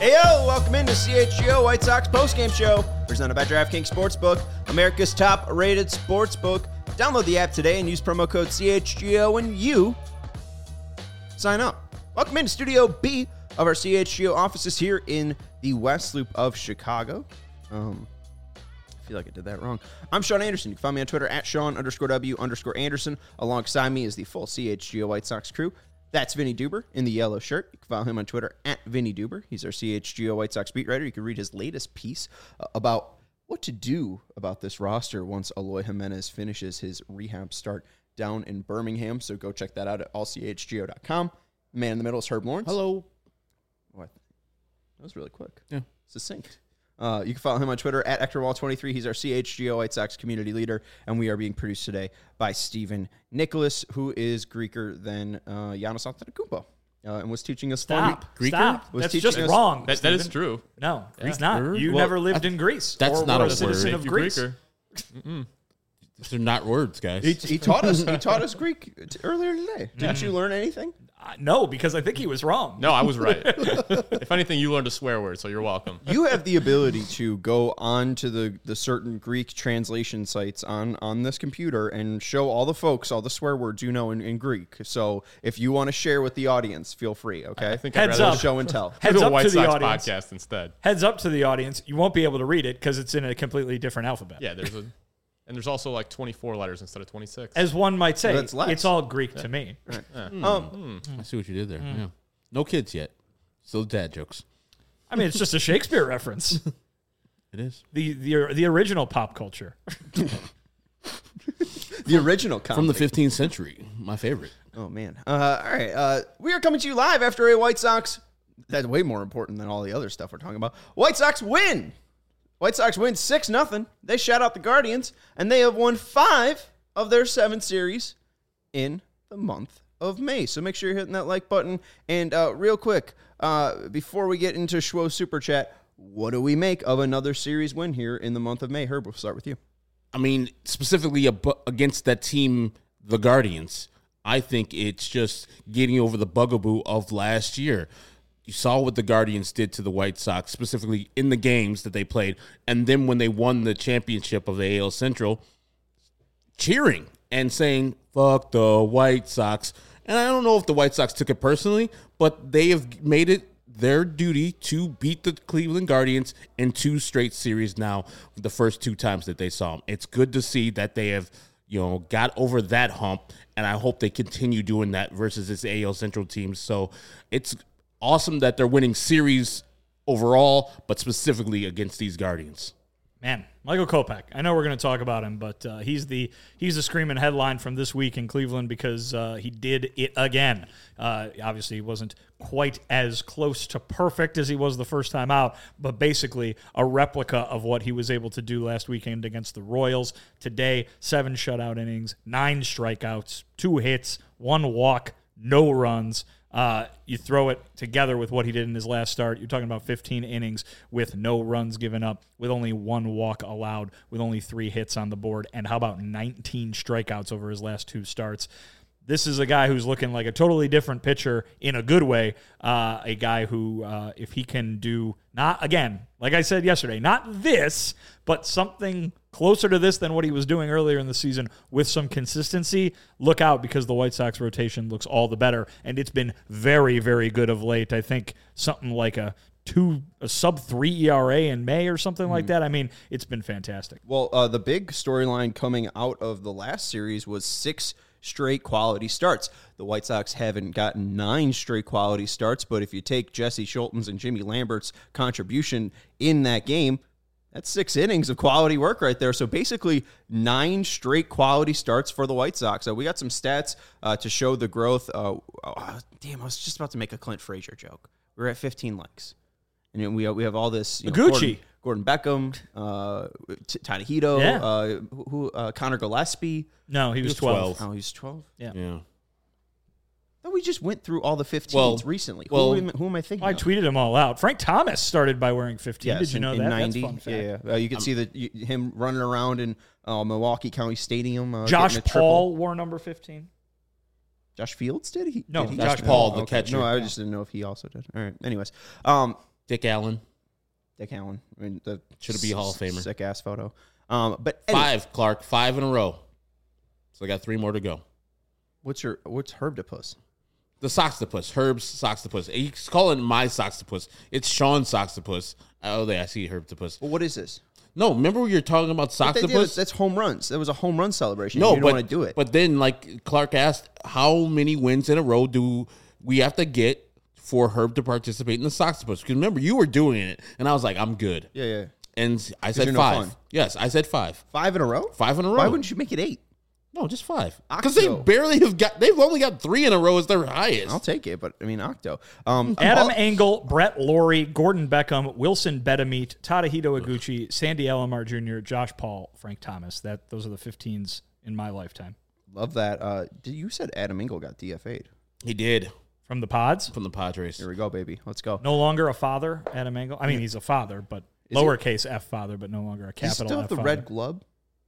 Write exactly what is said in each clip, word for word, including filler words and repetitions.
Hey, yo, welcome into C H G O White Sox postgame show, presented by DraftKings Sportsbook, America's top-rated sportsbook. Download the app today and use promo code C H G O when you sign up. Welcome into Studio B of our C H G O offices here in the West Loop of Chicago. Um, I feel like I did that wrong. I'm Sean Anderson. You can find me on Twitter at Sean underscore W underscore Anderson. Alongside me is the full C H G O White Sox crew. That's Vinny Duber in the yellow shirt. You can follow him on Twitter at Vinny Duber. He's our C H G O White Sox beat writer. You can read his latest piece uh, about what to do about this roster once Eloy Jimenez finishes his rehab start down in Birmingham. So go check that out at all c h g o dot com. Man in the middle is Herb Lawrence. Hello. What? That was really quick. Yeah. Succinct. Uh, you can follow him on Twitter at Ector Wall twenty-three. He's our C H G O White Sox community leader, and we are being produced today by Stephen Nicholas, who is Greeker than uh, Giannis Antetokounmpo, uh, and was teaching us. Stop. Greeker? Stop. Was That's teaching just us, wrong. That, that is true. No, Yeah. he's not. Word? You Well, never lived I, in Greece. that's or not were a a citizen word. of Thank you, Greece. Greeker. They're not words, guys. He, he taught us. He taught us Greek t- earlier today. Didn't you learn anything? Uh, no, because I think he was wrong. No, I was right. If anything, you learned a swear word, so you're welcome. You have the ability to go on to the, the certain Greek translation sites on, on this computer and show all the folks all the swear words you know in, in Greek. So if you want to share with the audience, feel free, okay? I think Heads I'd rather up. Show and tell. Heads do a up White to the Sox audience. podcast instead. Heads up to the audience. You won't be able to read it because it's in a completely different alphabet. Yeah, there's a, and there's also like twenty-four letters instead of twenty-six. As one might say, That's less. it's all Greek to me. Um, I see what you did there. Yeah. No kids yet. Still dad jokes. I mean, it's just a Shakespeare reference. It is. The the the original pop culture. the original comedy. From the fifteenth century. My favorite. Oh, man. Uh, all right. Uh, we are coming to you live after a White Sox. That's way more important than all the other stuff we're talking about. White Sox win. White Sox win six nothing. They shut out the Guardians, and they have won five of their seven series in the month of May. So make sure you're hitting that like button. And uh, real quick, uh, before we get into Schwo Super Chat, what do we make of another series win here in the month of May? Herb, we'll start with you. I mean, specifically ab- against that team, the Guardians, I think it's just getting over the bugaboo of last year. You saw what the Guardians did to the White Sox, specifically in the games that they played, and then when they won the championship of the A L Central, cheering and saying, fuck the White Sox. And I don't know if the White Sox took it personally, but they have made it their duty to beat the Cleveland Guardians in two straight series now, the first two times that they saw them. It's good to see that they have, you know, got over that hump, and I hope they continue doing that versus this A L Central team. So it's awesome that they're winning series overall, but specifically against these Guardians. Man, Michael Kopech. I know we're going to talk about him, but uh, he's the he's the screaming headline from this week in Cleveland because uh, he did it again. Uh, obviously, he wasn't quite as close to perfect as he was the first time out, but basically a replica of what he was able to do last weekend against the Royals. Today, seven shutout innings, nine strikeouts, two hits, one walk, no runs. Uh, you throw it together with what he did in his last start, you're talking about fifteen innings with no runs given up, with only one walk allowed, with only three hits on the board, and how about nineteen strikeouts over his last two starts? This is a guy who's looking like a totally different pitcher in a good way, uh, a guy who, uh, if he can do, not, again, like I said yesterday, not this, but something closer to this than what he was doing earlier in the season with some consistency, look out because the White Sox rotation looks all the better, and it's been very, very good of late. I think something like a two, a sub three E R A in May or something like that. I mean, it's been fantastic. Well, uh, the big storyline coming out of the last series was six straight quality starts. The White Sox haven't gotten nine straight quality starts, but if you take Jesse Schulten's and Jimmy Lambert's contribution in that game, that's six innings of quality work right there. So basically nine straight quality starts for the White Sox. So we got some stats uh, to show the growth. Uh, oh, damn, I was just about to make a Clint Frazier joke. We're at fifteen likes. And we we have all this. You know, Gucci. Gordon, Gordon Beckham, uh, T- Tadahito, Yeah. uh, who, uh, Connor Gillespie. No, he was was twelve. twelve. Oh, he's twelve? Yeah. Yeah. Thought we just went through all the fifteens Well, recently. well, who, am, who am I thinking I of? tweeted them all out. Frank Thomas started by wearing fifteen. Yes, Did you in- know in that? ninety. That's a fun fact. Yeah, yeah. Uh, you can see the, you, him running around in uh, Milwaukee County Stadium. Uh, Josh getting a triple. Paul wore number fifteen. Josh Fields did he? No, did he? Josh Paul, the okay. catcher. No, I Yeah. just didn't know if he also did. All right. Anyways, um, Dick Allen. Dick Allen. I mean, the Should be a Hall of Famer. Sick ass photo. Um, but anyway, Five, Clark. Five in a row. So I got three more to go. what's your what's Herbdipus? The Soxtopus. Herb's Soxtopus. He's calling my Soxtopus. It's Sean's Soxtopus. Oh, there, I see Herbdipus. Well, what is this? No, remember we were talking about But they do- Soxtopus? That's home runs. That was a home run celebration. No, you don't but, want to do it. But then, like Clark asked, how many wins in a row do we have to get for Herb to participate in the Soxtopus? Because remember, you were doing it, and I was like, I'm good. yeah, yeah. And I said you're no five. fun. Yes, I said five. Five in a row? Five in a row. Why wouldn't you make it eight? No, just five. Because they Octo. barely have got. They've only got three in a row as their highest. I'll take it, but I mean Octo. Um, Adam all- Engel, Brett Laurie, Gordon Beckham, Wilson Bedameet, Tadahito Iguchi, Sandy Alomar Junior, Josh Paul, Frank Thomas. That those are the fifteens in my lifetime. love that. Uh, did you said Adam Engel got D F A'd? He did From the Pods, from the Padres. Here we go, baby. Let's go. no longer a father, Adam Engel. I mean, he's a father, but Is he? lowercase f father, but no longer a Does he capital still have F the father. red glove?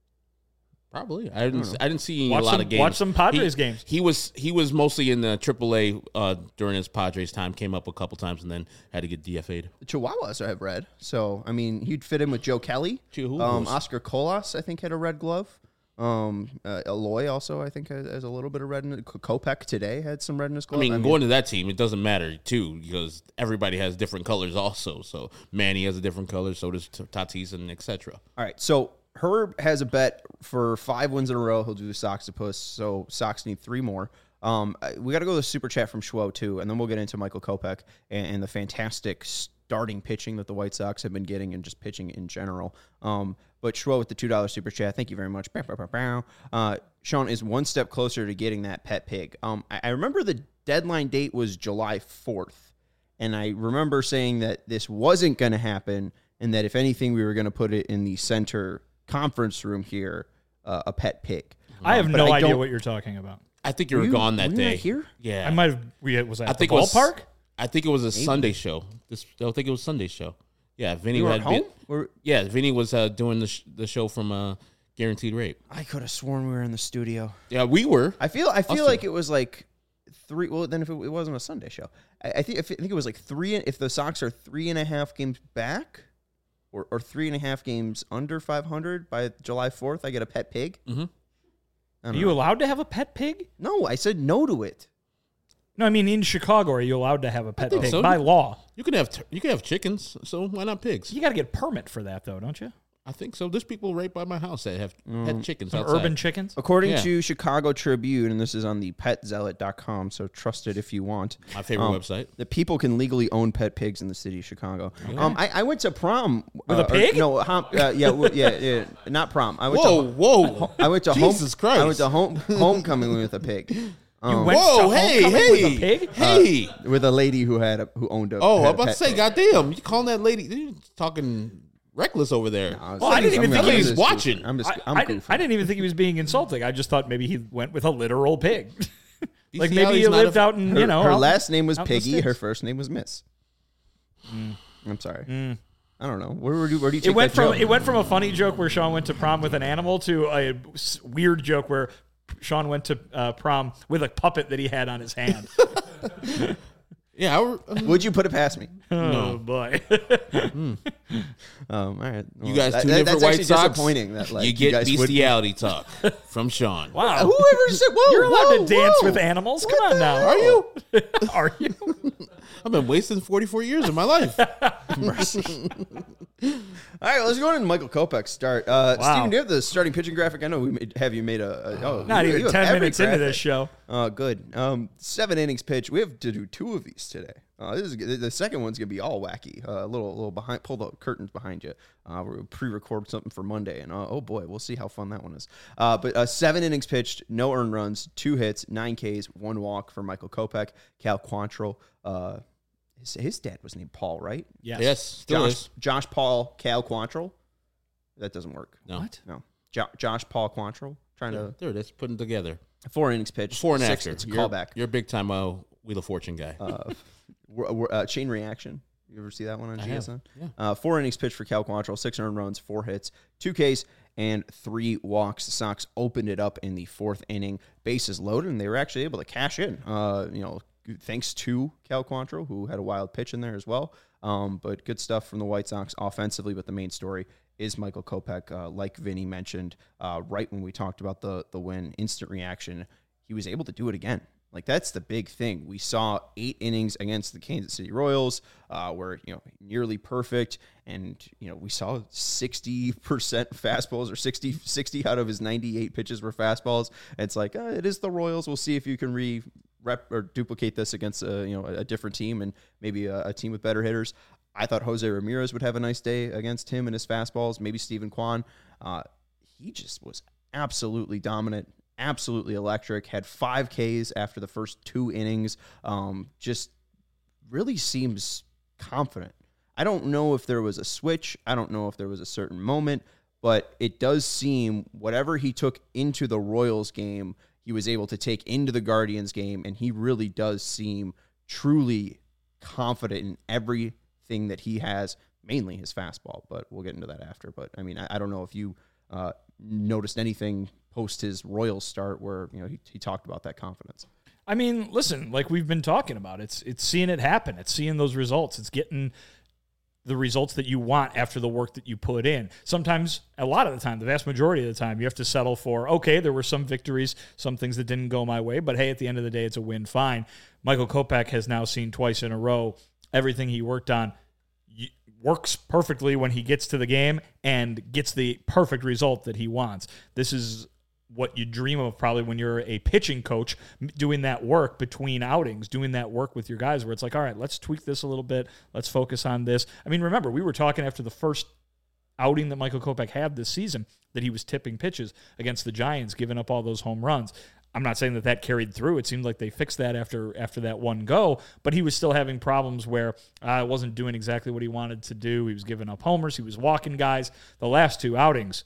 Probably. I didn't. I didn't see Watch a lot some- of games. watch some Padres He- games. He was. He was mostly in the triple A uh, during his Padres time. Came up a couple times and then had to get D F A'd. The Chihuahuas have red, so I mean he'd fit in with Joe Kelly. Chihuahuas. Um, Oscar Colas, I think, had a red glove. Um, uh, Eloy also, I think, has, has a little bit of red in it. Kopech today had some red in his I glove. mean, going to that team, it doesn't matter too because everybody has different colors also. So Manny has a different color. So does T- Tatis and et cetera. all right, so Herb has a bet for five wins in a row. He'll do the Soxtopus, so Sox need three more. Um, I- we got to go to the super chat from Schwo too, and then we'll get into Michael Kopech and, and the fantastic starting pitching that the White Sox have been getting and just pitching in general. Um, but Schwo with the two dollar super chat, thank you very much. Bow, bow, bow, bow. Uh, Sean is one step closer to getting that pet pig. Um, I, I remember the deadline date was July fourth, and I remember saying that this wasn't going to happen, and that if anything, we were going to put it in the center conference room here, uh, a pet pig. I have But no I idea don't- what you're talking about. I think you were you- gone that were you not day. here? Yeah, I might have. We was I I at think the it was ballpark. I think it was a Sunday show. This I think it was Sunday show. Yeah, Vinny You were had at home? been. Or- Yeah, Vinny was uh, doing the sh- the show from uh, Guaranteed Rate. I could have sworn we were in the studio. Yeah, we were. I feel I feel Us like too. it was like three. Well, then if it, it wasn't a Sunday show, I, I think I think it was like three. If the Sox are three and a half games back, or or three and a half games under five hundred by July fourth, I get a pet pig. Mm-hmm. I Are don't you know. allowed to have a pet pig? No, I said no to it. No, I mean in Chicago, are you allowed to have a pet think pig so. by law? You can have t- you can have chickens, so why not pigs? You got to get permit for that, though, don't you? I think so. There's people right by my house that have had chickens Some outside. urban chickens. According Yeah. to Chicago Tribune, and this is on the pet zealot dot com, so trust it if you want. My favorite Um, website. The people can legally own pet pigs in the city of Chicago. Um, I, I went to prom With uh, a or- pig? no, hom- uh, yeah, w- yeah, yeah, not prom. I went Whoa, to whoa! I went to Jesus home. Christ! I went to home homecoming with a pig. You Um, went Whoa! to Hey, homecoming hey, with a pig? hey! with a lady who had a, who owned a. oh, had I'm a about to pet say, pig. goddamn! You calling that lady? You're talking reckless over there. I was- Well, I didn't I'm even gonna- think I'm he was just watching. goofing. I'm just. I, I'm I, didn't, goofing. I didn't even think he was being insulting. I just thought maybe he went with a literal pig. like see how maybe he's he not lived a- out in, Her, you know. her out- last name was out in the Piggy. sticks. Her first name was Miss. I'm sorry. I don't know. Where, where do where do you take It went that from joke? it went from a funny joke where Sean went to prom with an animal to a s- weird joke where Sean went to uh, prom with a puppet that he had on his hand. Yeah, I were, uh, Would you put it past me? Oh boy! Um, all right. Well, you guys that- tune that- in for that's White actually Sox. disappointing. That like you get guys would- bestiality talk from Sean. Wow, Whoever said, whoa, you're allowed whoa, to dance whoa. with animals. What Come on the now, hell? are you? Are you? I've been wasting forty-four years of my life. All right, let's go into Michael Kopech's start. Uh, Wow. Steven, do you have the starting pitching graphic? I know we made, have you made a, a oh, Not you- even you have ten every minutes into graphic. this show. Oh, good. Um, seven innings pitch. We have to do two of these today. Uh, this is the second one's gonna be all wacky. Uh, a little, little behind. Pull the curtains behind you. Uh, we pre-record something for Monday, and uh, oh boy, we'll see how fun that one is. Uh, but uh, seven innings pitched, no earned runs, two hits, nine Ks, one walk for Michael Kopech. Cal Quantrill. Uh, his, his dad was named Paul, right? Yes. Yes, still Josh, is. Josh Paul, Cal Quantrill. That doesn't work. No. What? No, jo- Josh Paul Quantrill. Trying to There it is. Putting together. four innings pitched. Before and six, after. It's a You're- callback. You're a big time uh, Wheel of Fortune guy. uh, we're- we're- uh, chain reaction. You ever see that one on I G S N? have, yeah. Uh, four innings pitched for Cal Quantrill, six earned runs, four hits, two Ks, and three walks. The Sox opened it up in the fourth inning, bases loaded, and they were actually able to cash in. Uh, you know, thanks to Cal Quantrill, who had a wild pitch in there as well. Um, but good stuff from the White Sox offensively. But the main story is Michael Kopech, uh, like Vinny mentioned, uh, right when we talked about the the win, instant reaction. He was able to do it again. Like, that's the big thing. We saw eight innings against the Kansas City Royals, uh, where, you know, nearly perfect. And, you know, we saw sixty percent fastballs, or sixty, sixty out of his ninety-eight pitches were fastballs. And it's like, uh, it is the Royals. We'll see if you can re rep or duplicate this against a, you know, a different team, and maybe a, a team with better hitters. I thought Jose Ramirez would have a nice day against him and his fastballs. Maybe Stephen Kwan. Uh, he just was absolutely dominant. Absolutely electric, had five Ks after the first two innings. Um, just really seems confident. I don't know if there was a switch. I don't know if there was a certain moment, but it does seem whatever he took into the Royals game, he was able to take into the Guardians game, and he really does seem truly confident in everything that he has, mainly his fastball, but we'll get into that after. But, I mean, I, I don't know if you uh, noticed anything post his Royals start where, you know, he, he talked about that confidence. I mean, listen, like we've been talking about, it's it's seeing it happen. It's seeing those results. It's getting the results that you want after the work that you put in. Sometimes, a lot of the time, the vast majority of the time, you have to settle for, okay, there were some victories, some things that didn't go my way, but hey, at the end of the day, it's a win, fine. Michael Kopech has now seen twice in a row everything he worked on works perfectly when he gets to the game and gets the perfect result that he wants. This is what you dream of probably when you're a pitching coach, doing that work between outings, doing that work with your guys where it's like, all right, let's tweak this a little bit. Let's focus on this. I mean, remember, we were talking after the first outing that Michael Kopech had this season that he was tipping pitches against the Giants, giving up all those home runs. I'm not saying that that carried through. It seemed like they fixed that after after that one go, but he was still having problems where I uh, wasn't doing exactly what he wanted to do. He was giving up homers. He was walking guys. The last two outings,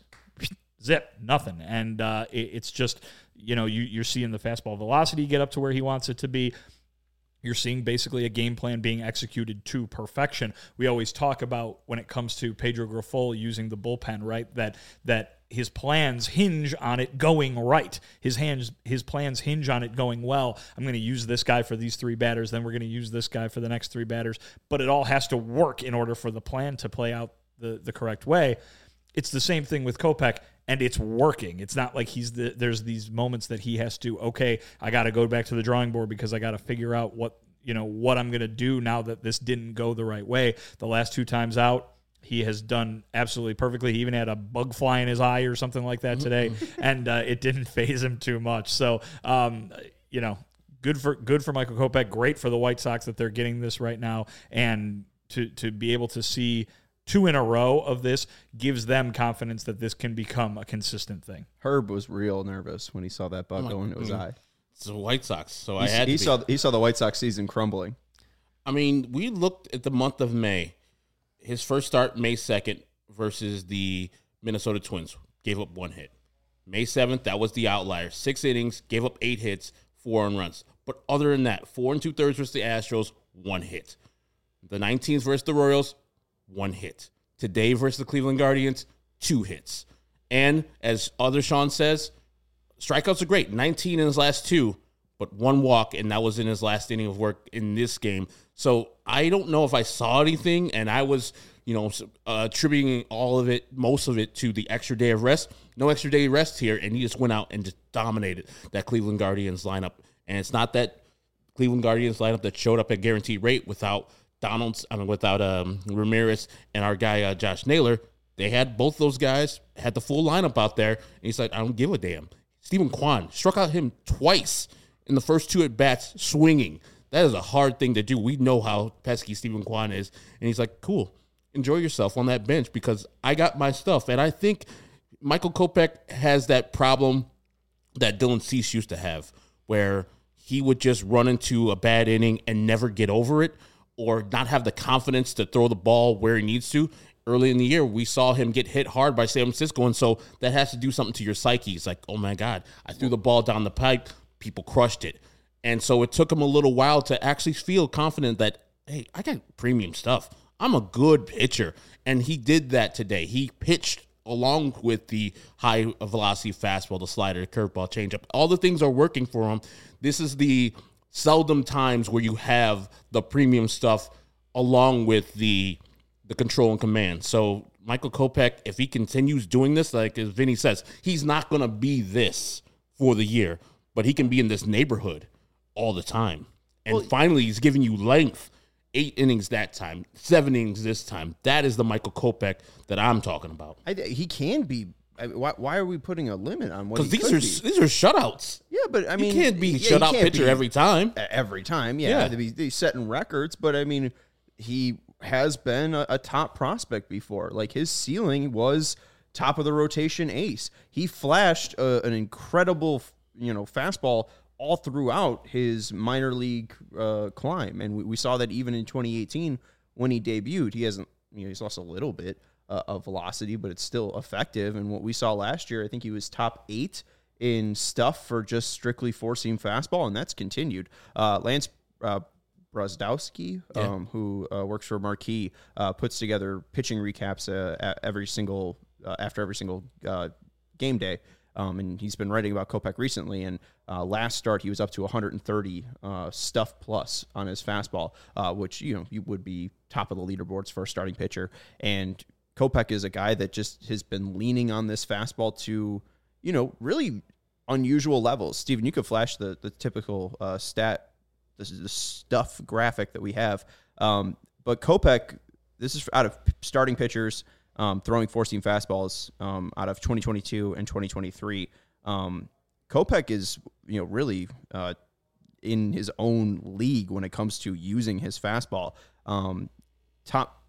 zip, nothing. And uh, it, it's just, you know, you, you're seeing the fastball velocity get up to where he wants it to be. You're seeing basically a game plan being executed to perfection. We always talk about when it comes to Pedro Grifol using the bullpen, right, that that his plans hinge on it going right. His hands, his plans hinge on it going well. I'm going to use this guy for these three batters, then we're going to use this guy for the next three batters. But it all has to work in order for the plan to play out the, the correct way. It's the same thing with Kopech, and it's working. It's not like he's the, there's these moments that he has to, okay, I got to go back to the drawing board because I got to figure out what, you know, what I'm going to do now that this didn't go the right way. The last two times out, he has done absolutely perfectly. He even had a bug fly in his eye or something like that today, and uh, it didn't faze him too much. So, um, you know, good for good for Michael Kopech. Great for the White Sox that they're getting this right now, and to to be able to see two in a row of this gives them confidence that this can become a consistent thing. Herb was real nervous when he saw that bug oh go into his eye. It's the White Sox, so He's, I had he to be. saw he saw the White Sox season crumbling. I mean, we looked at the month of May. His first start, May second, versus the Minnesota Twins, gave up one hit. May seventh, that was the outlier. Six innings, gave up eight hits, four earned runs. But other than that, four and two-thirds versus the Astros, one hit. The nineteenth versus the Royals, one hit. Today versus the Cleveland Guardians, two hits. And as other Sean says, strikeouts are great. nineteen in his last two, but one walk, and that was in his last inning of work in this game. So I don't know if I saw anything, and I was, you know, uh, attributing all of it, most of it, to the extra day of rest. No extra day of rest here, and he just went out and just dominated that Cleveland Guardians lineup. And it's not that Cleveland Guardians lineup that showed up at guaranteed rate without Donald's, I mean, without um, Ramirez and our guy uh, Josh Naylor. They had both those guys, had the full lineup out there, and he's like, I don't give a damn. Stephen Kwan struck out him twice in the first two at-bats swinging. That is a hard thing to do. We know how pesky Stephen Kwan is. And he's like, cool, enjoy yourself on that bench because I got my stuff. And I think Michael Kopech has that problem that Dylan Cease used to have where he would just run into a bad inning and never get over it or not have the confidence to throw the ball where he needs to. Early in the year, we saw him get hit hard by San Francisco, and so that has to do something to your psyche. It's like, oh, my God, I threw the ball down the pipe. People crushed it. And so it took him a little while to actually feel confident that, hey, I got premium stuff. I'm a good pitcher. And he did that today. He pitched along with the high-velocity fastball, the slider, the curveball, changeup. All the things are working for him. This is the seldom times where you have the premium stuff along with the the control and command. So Michael Kopech, if he continues doing this, like as Vinny says, he's not going to be this for the year, but he can be in this neighborhood all the time. And well, finally, he's giving you length. Eight innings that time, seven innings this time. That is the Michael Kopech that I'm talking about. I, he can be. I mean, why, why are we putting a limit on what he Because these could are be? these are shutouts. Yeah, but I mean, you can't be yeah, shutout can't pitcher be every time. Every time, yeah. Yeah. He's he's setting records, but I mean, he has been a, a top prospect before. Like his ceiling was top of the rotation ace. He flashed a, an incredible, you know, fastball all throughout his minor league uh, climb. And we, we saw that even in twenty eighteen when he debuted. He hasn't, you know, he's lost a little bit uh, of velocity, but it's still effective. And what we saw last year, I think he was top eight in stuff for just strictly four-seam fastball, and that's continued. Uh, Lance uh, Brozdowski, Yeah. um, who uh, works for Marquee, uh, puts together pitching recaps uh, every single uh, after every single uh, game day. Um, and he's been writing about Kopech recently, and uh, last start he was up to one hundred thirty uh, stuff plus on his fastball, uh, which, you know, you would be top of the leaderboards for a starting pitcher. And Kopech is a guy that just has been leaning on this fastball to, you know, really unusual levels. Steven, you could flash the the typical uh, stat, this is the stuff graphic that we have. Um, but Kopech, this is out of starting pitchers Um, throwing four-seam fastballs um, out of twenty twenty-two and twenty twenty-three. Um, Kopech is, you know, really uh, in his own league when it comes to using his fastball. Um, top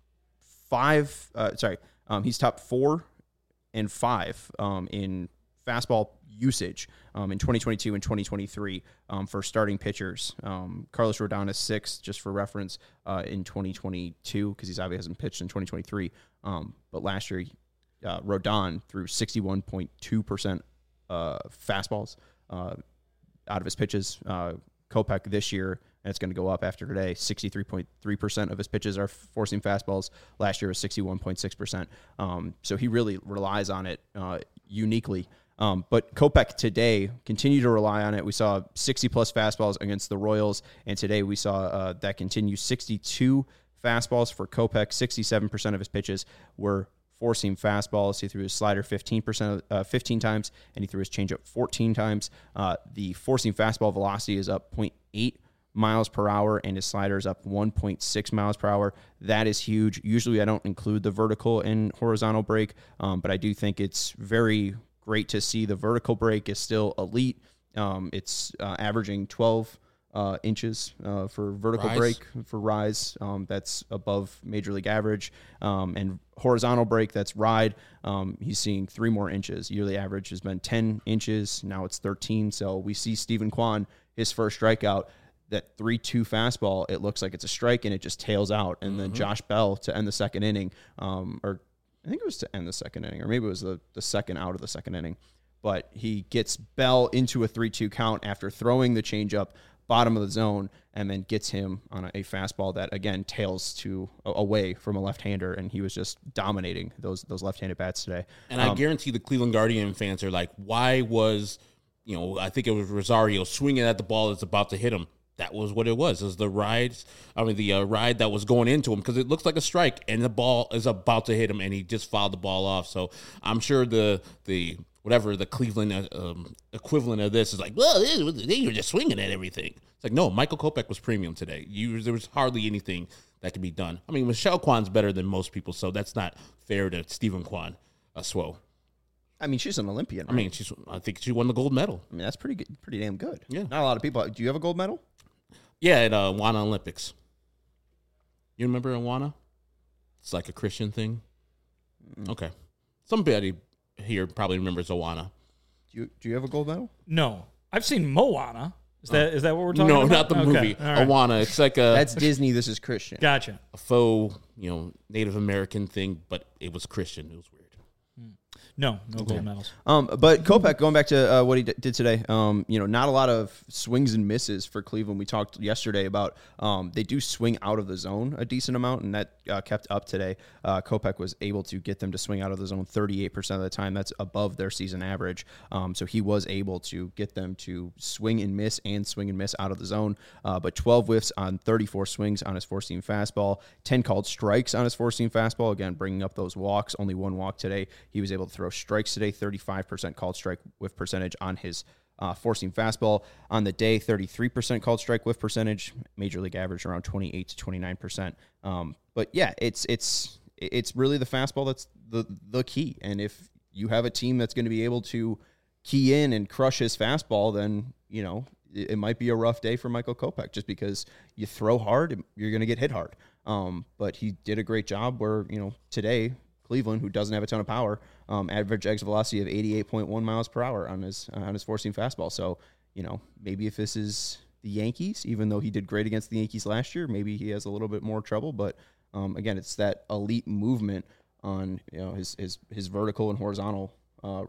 five, uh, sorry, um, he's top four and five um, in fastball usage um, in twenty twenty-two and twenty twenty-three um, for starting pitchers. Um, Carlos Rodon is sixth, just for reference, uh, in twenty twenty-two, because he's obviously hasn't pitched in twenty twenty-three. Um, but last year, uh, Rodon threw sixty-one point two percent uh, fastballs uh, out of his pitches. Uh, Kopech this year, and it's going to go up after today, sixty-three point three percent of his pitches are four-seam fastballs. Last year was sixty-one point six percent. Um, so he really relies on it uh, uniquely. Um, but Kopech today continued to rely on it. We saw sixty-plus fastballs against the Royals, and today we saw uh, that continue. sixty-two fastballs for Kopech. sixty-seven percent of his pitches were four-seam fastballs. He threw his slider fifteen percent, uh, fifteen times, and he threw his changeup fourteen times. Uh, the four-seam fastball velocity is up zero point eight miles per hour, and his slider is up one point six miles per hour. That is huge. Usually I don't include the vertical and horizontal break, um, but I do think it's very great to see the vertical break is still elite. Um, it's uh, averaging twelve uh, inches uh, for vertical Rise. break for rise. Um, that's above major league average. Um, and horizontal break, that's ride. Um, he's seeing three more inches. Yearly average has been ten inches. Now it's thirteen. So we see Stephen Kwan, his first strikeout, that three two fastball, it looks like it's a strike and it just tails out. And then Josh Bell to end the second inning, um, or I think it was to end the second inning, or maybe it was the, the second out of the second inning. But he gets Bell into a three two count after throwing the changeup bottom of the zone, and then gets him on a, a fastball that, again, tails to a, away from a left-hander, and he was just dominating those those left-handed bats today. And um, I guarantee the Cleveland Guardian fans are like, why was, you know, I think it was Rosario swinging at the ball that's about to hit him. That was what it was. It was the ride, I mean, the uh, ride that was going into him, because it looks like a strike, and the ball is about to hit him, and he just fouled the ball off. So I'm sure the the whatever the Cleveland um, equivalent of this is like, well, they were just swinging at everything. It's like, no, Michael Kopech was premium today. You, there was hardly anything that could be done. I mean, Michelle Kwan's better than most people, so that's not fair to Stephen Kwan, uh, Swo. I mean, she's an Olympian, right? I mean, she's. I think she won the gold medal. I mean, that's pretty good, pretty damn good. Yeah. Not a lot of people. Do you have a gold medal? Yeah, at uh, Awana Olympics. You remember Awana? It's like a Christian thing. Okay. Somebody here probably remembers Awana. Do you do you have a gold medal? No. I've seen Moana. Is that is that what we're talking No, about? not the Okay. movie. All right. Awana. It's like a, That's Disney. This is Christian. Gotcha. a faux, you know, Native American thing, but it was Christian. It was weird. No, no gold medals. Um, but Kopech, going back to uh, what he d- did today, um, you know, not a lot of swings and misses for Cleveland. We talked yesterday about um, they do swing out of the zone a decent amount, and that uh, kept up today. Uh, Kopech was able to get them to swing out of the zone thirty-eight percent of the time. That's above their season average. Um, so he was able to get them to swing and miss and swing and miss out of the zone. Uh, but twelve whiffs on thirty-four swings on his four-seam fastball, ten called strikes on his four-seam fastball. Again, bringing up those walks, only one walk today. He was able to throw strikes today, thirty-five percent called strike whiff percentage on his uh, four-seam fastball. On the day, thirty-three percent called strike whiff percentage. Major league average around twenty-eight to twenty-nine percent. Um, but yeah, it's it's it's really the fastball that's the the key. And if you have a team that's going to be able to key in and crush his fastball, then you know it, it might be a rough day for Michael Kopech, just because you throw hard, you're going to get hit hard. Um, but he did a great job where, you know, today Cleveland, who doesn't have a ton of power, um, average exit velocity of eighty-eight point one miles per hour on his uh, on his four-seam fastball. So, you know, maybe if this is the Yankees, even though he did great against the Yankees last year, maybe he has a little bit more trouble. But um, again, it's that elite movement on, you know, his his his vertical and horizontal uh,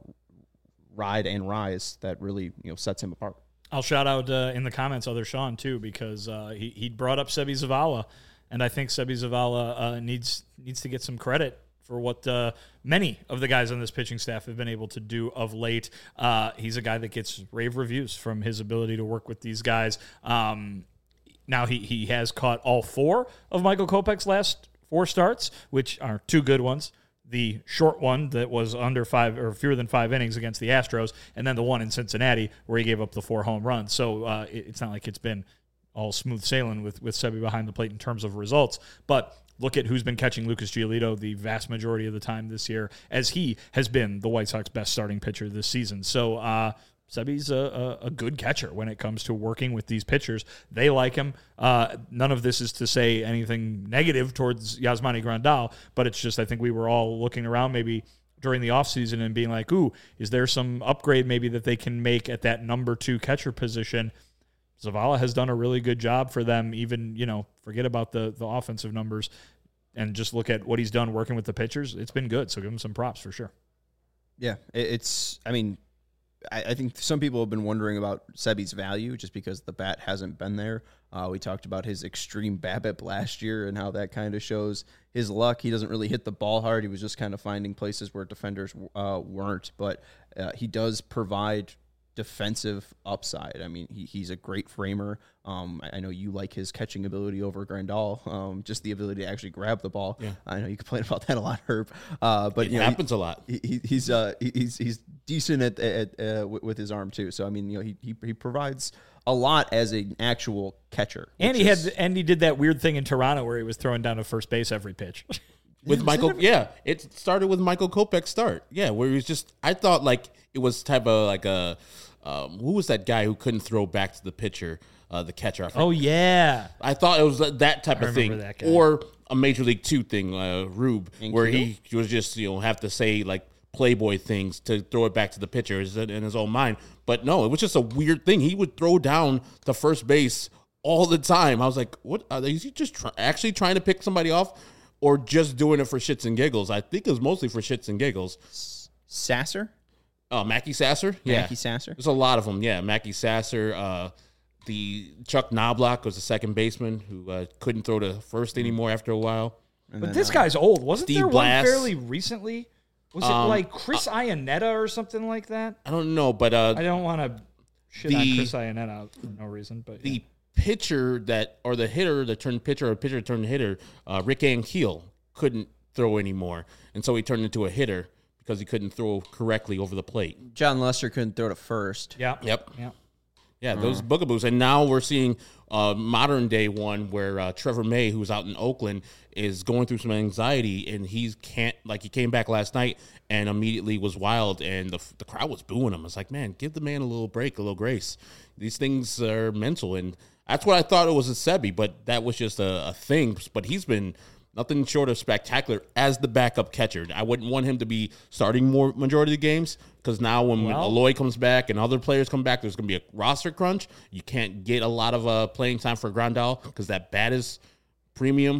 ride and rise that really, you know, sets him apart. I'll shout out uh, in the comments other Sean too, because uh, he he brought up Sebi Zavala, and I think Sebi Zavala uh, needs needs to get some credit for what uh, many of the guys on this pitching staff have been able to do of late. Uh, he's a guy that gets rave reviews from his ability to work with these guys. Um, now he he has caught all four of Michael Kopech's last four starts, which are two good ones. The short one that was under five or fewer than five innings against the Astros, and then the one in Cincinnati where he gave up the four home runs. So uh, it, it's not like it's been all smooth sailing with, with Sebi behind the plate in terms of results. But look at who's been catching Lucas Giolito the vast majority of the time this year, as he has been the White Sox best starting pitcher this season. So uh, Sebi's a, a, a good catcher when it comes to working with these pitchers. They like him. Uh, none of this is to say anything negative towards Yasmani Grandal, but it's just I think we were all looking around maybe during the offseason and being like, ooh, is there some upgrade maybe that they can make at that number two catcher position? Zavala has done a really good job for them, even, you know, forget about the, the offensive numbers and just look at what he's done working with the pitchers. It's been good, so give him some props for sure. Yeah, it's, I mean, I, I think some people have been wondering about Sebi's value just because the bat hasn't been there. Uh, we talked about his extreme BABIP last year and how that kind of shows his luck. He doesn't really hit the ball hard. He was just kind of finding places where defenders uh, weren't, but uh, he does provide defensive upside. I mean, he, he's a great framer. Um, I, I know you like his catching ability over Grandal, um, just the ability to actually grab the ball. Yeah. I know you complain about that a lot, Herb. Uh, but It you know, happens he, a lot. He, he, he's uh, he's he's decent at, at uh, with, with his arm too. So I mean, you know, he he, he provides a lot as an actual catcher. And he is, had and he did that weird thing in Toronto where he was throwing down to first base every pitch. With Michael, yeah, it started with Michael Kopech's start. Yeah, where he was just, I thought like it was type of like a, um, who was that guy who couldn't throw back to the pitcher, uh, the catcher? I forgot. Oh, yeah. I thought it was that type I of thing, remember that guy. or a Major League Two thing, uh, Rube, And where Keel? he, he was just you know have to say like Playboy things to throw it back to the pitcher in his own mind. But no, it was just a weird thing. He would throw down to first base all the time. I was like, what? Are they, is he just try, actually trying to pick somebody off? Or just doing it for shits and giggles? I think it was mostly for shits and giggles. Sasser, Oh, Mackie Sasser? Yeah. Mackie Sasser. There's a lot of them. Yeah, Mackie Sasser. Uh, the Chuck Knobloch was the second baseman who uh, couldn't throw to first anymore after a while. And But then, this uh, guy's old. Wasn't Steve there Blass. one fairly recently? Was it Um, like Chris Iannetta or something like that? I don't know, but uh, I don't want to shit on the- Chris Iannetta for no reason. But the pitcher that, or the hitter that turned pitcher, or pitcher that turned hitter, uh, Rick Ankiel, couldn't throw anymore. And so he turned into a hitter because he couldn't throw correctly over the plate. John Lester couldn't throw to first. yeah, Yep. yeah. Yeah, those bugaboos. And now we're seeing a modern day one where uh, Trevor May, who's out in Oakland, is going through some anxiety, and he can't, like, he came back last night and immediately was wild, and the the crowd was booing him. It's like, man, give the man a little break, a little grace. These things are mental, and that's what I thought it was a Sebi, but that was just a, a thing. But he's been nothing short of spectacular as the backup catcher. I wouldn't want him to be starting more majority of the games because now when Well- Aloy comes back and other players come back, there's going to be a roster crunch. You can't get a lot of uh, playing time for Grandal because that bat is premium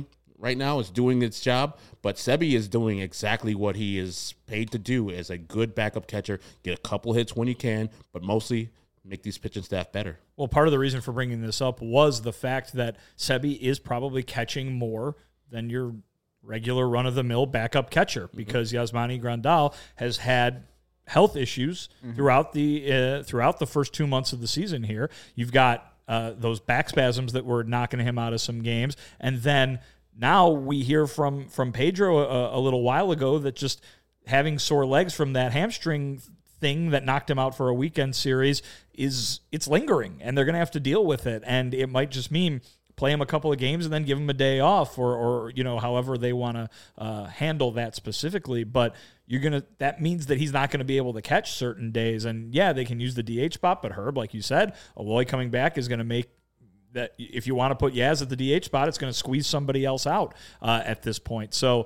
right now is doing its job, but Sebi is doing exactly what he is paid to do as a good backup catcher. Get a couple hits when you can, but mostly make these pitching staff better. Well, part of the reason for bringing this up was the fact that Sebi is probably catching more than your regular run-of-the-mill backup catcher because mm-hmm. Yasmani Grandal has had health issues mm-hmm. throughout the uh, throughout the first two months of the season here. You've got uh, those back spasms that were knocking him out of some games, and then now we hear from, from Pedro a, a little while ago that just having sore legs from that hamstring thing that knocked him out for a weekend series is it's lingering, and they're going to have to deal with it, and it might just mean play him a couple of games and then give him a day off or, or you know, however they want to uh, handle that specifically. But you're going to, that means that he's not going to be able to catch certain days. And yeah, they can use the D H spot, but Herb, like you said, Eloy coming back is going to make that, if you want to put Yaz at the D H spot, it's going to squeeze somebody else out uh, at this point. So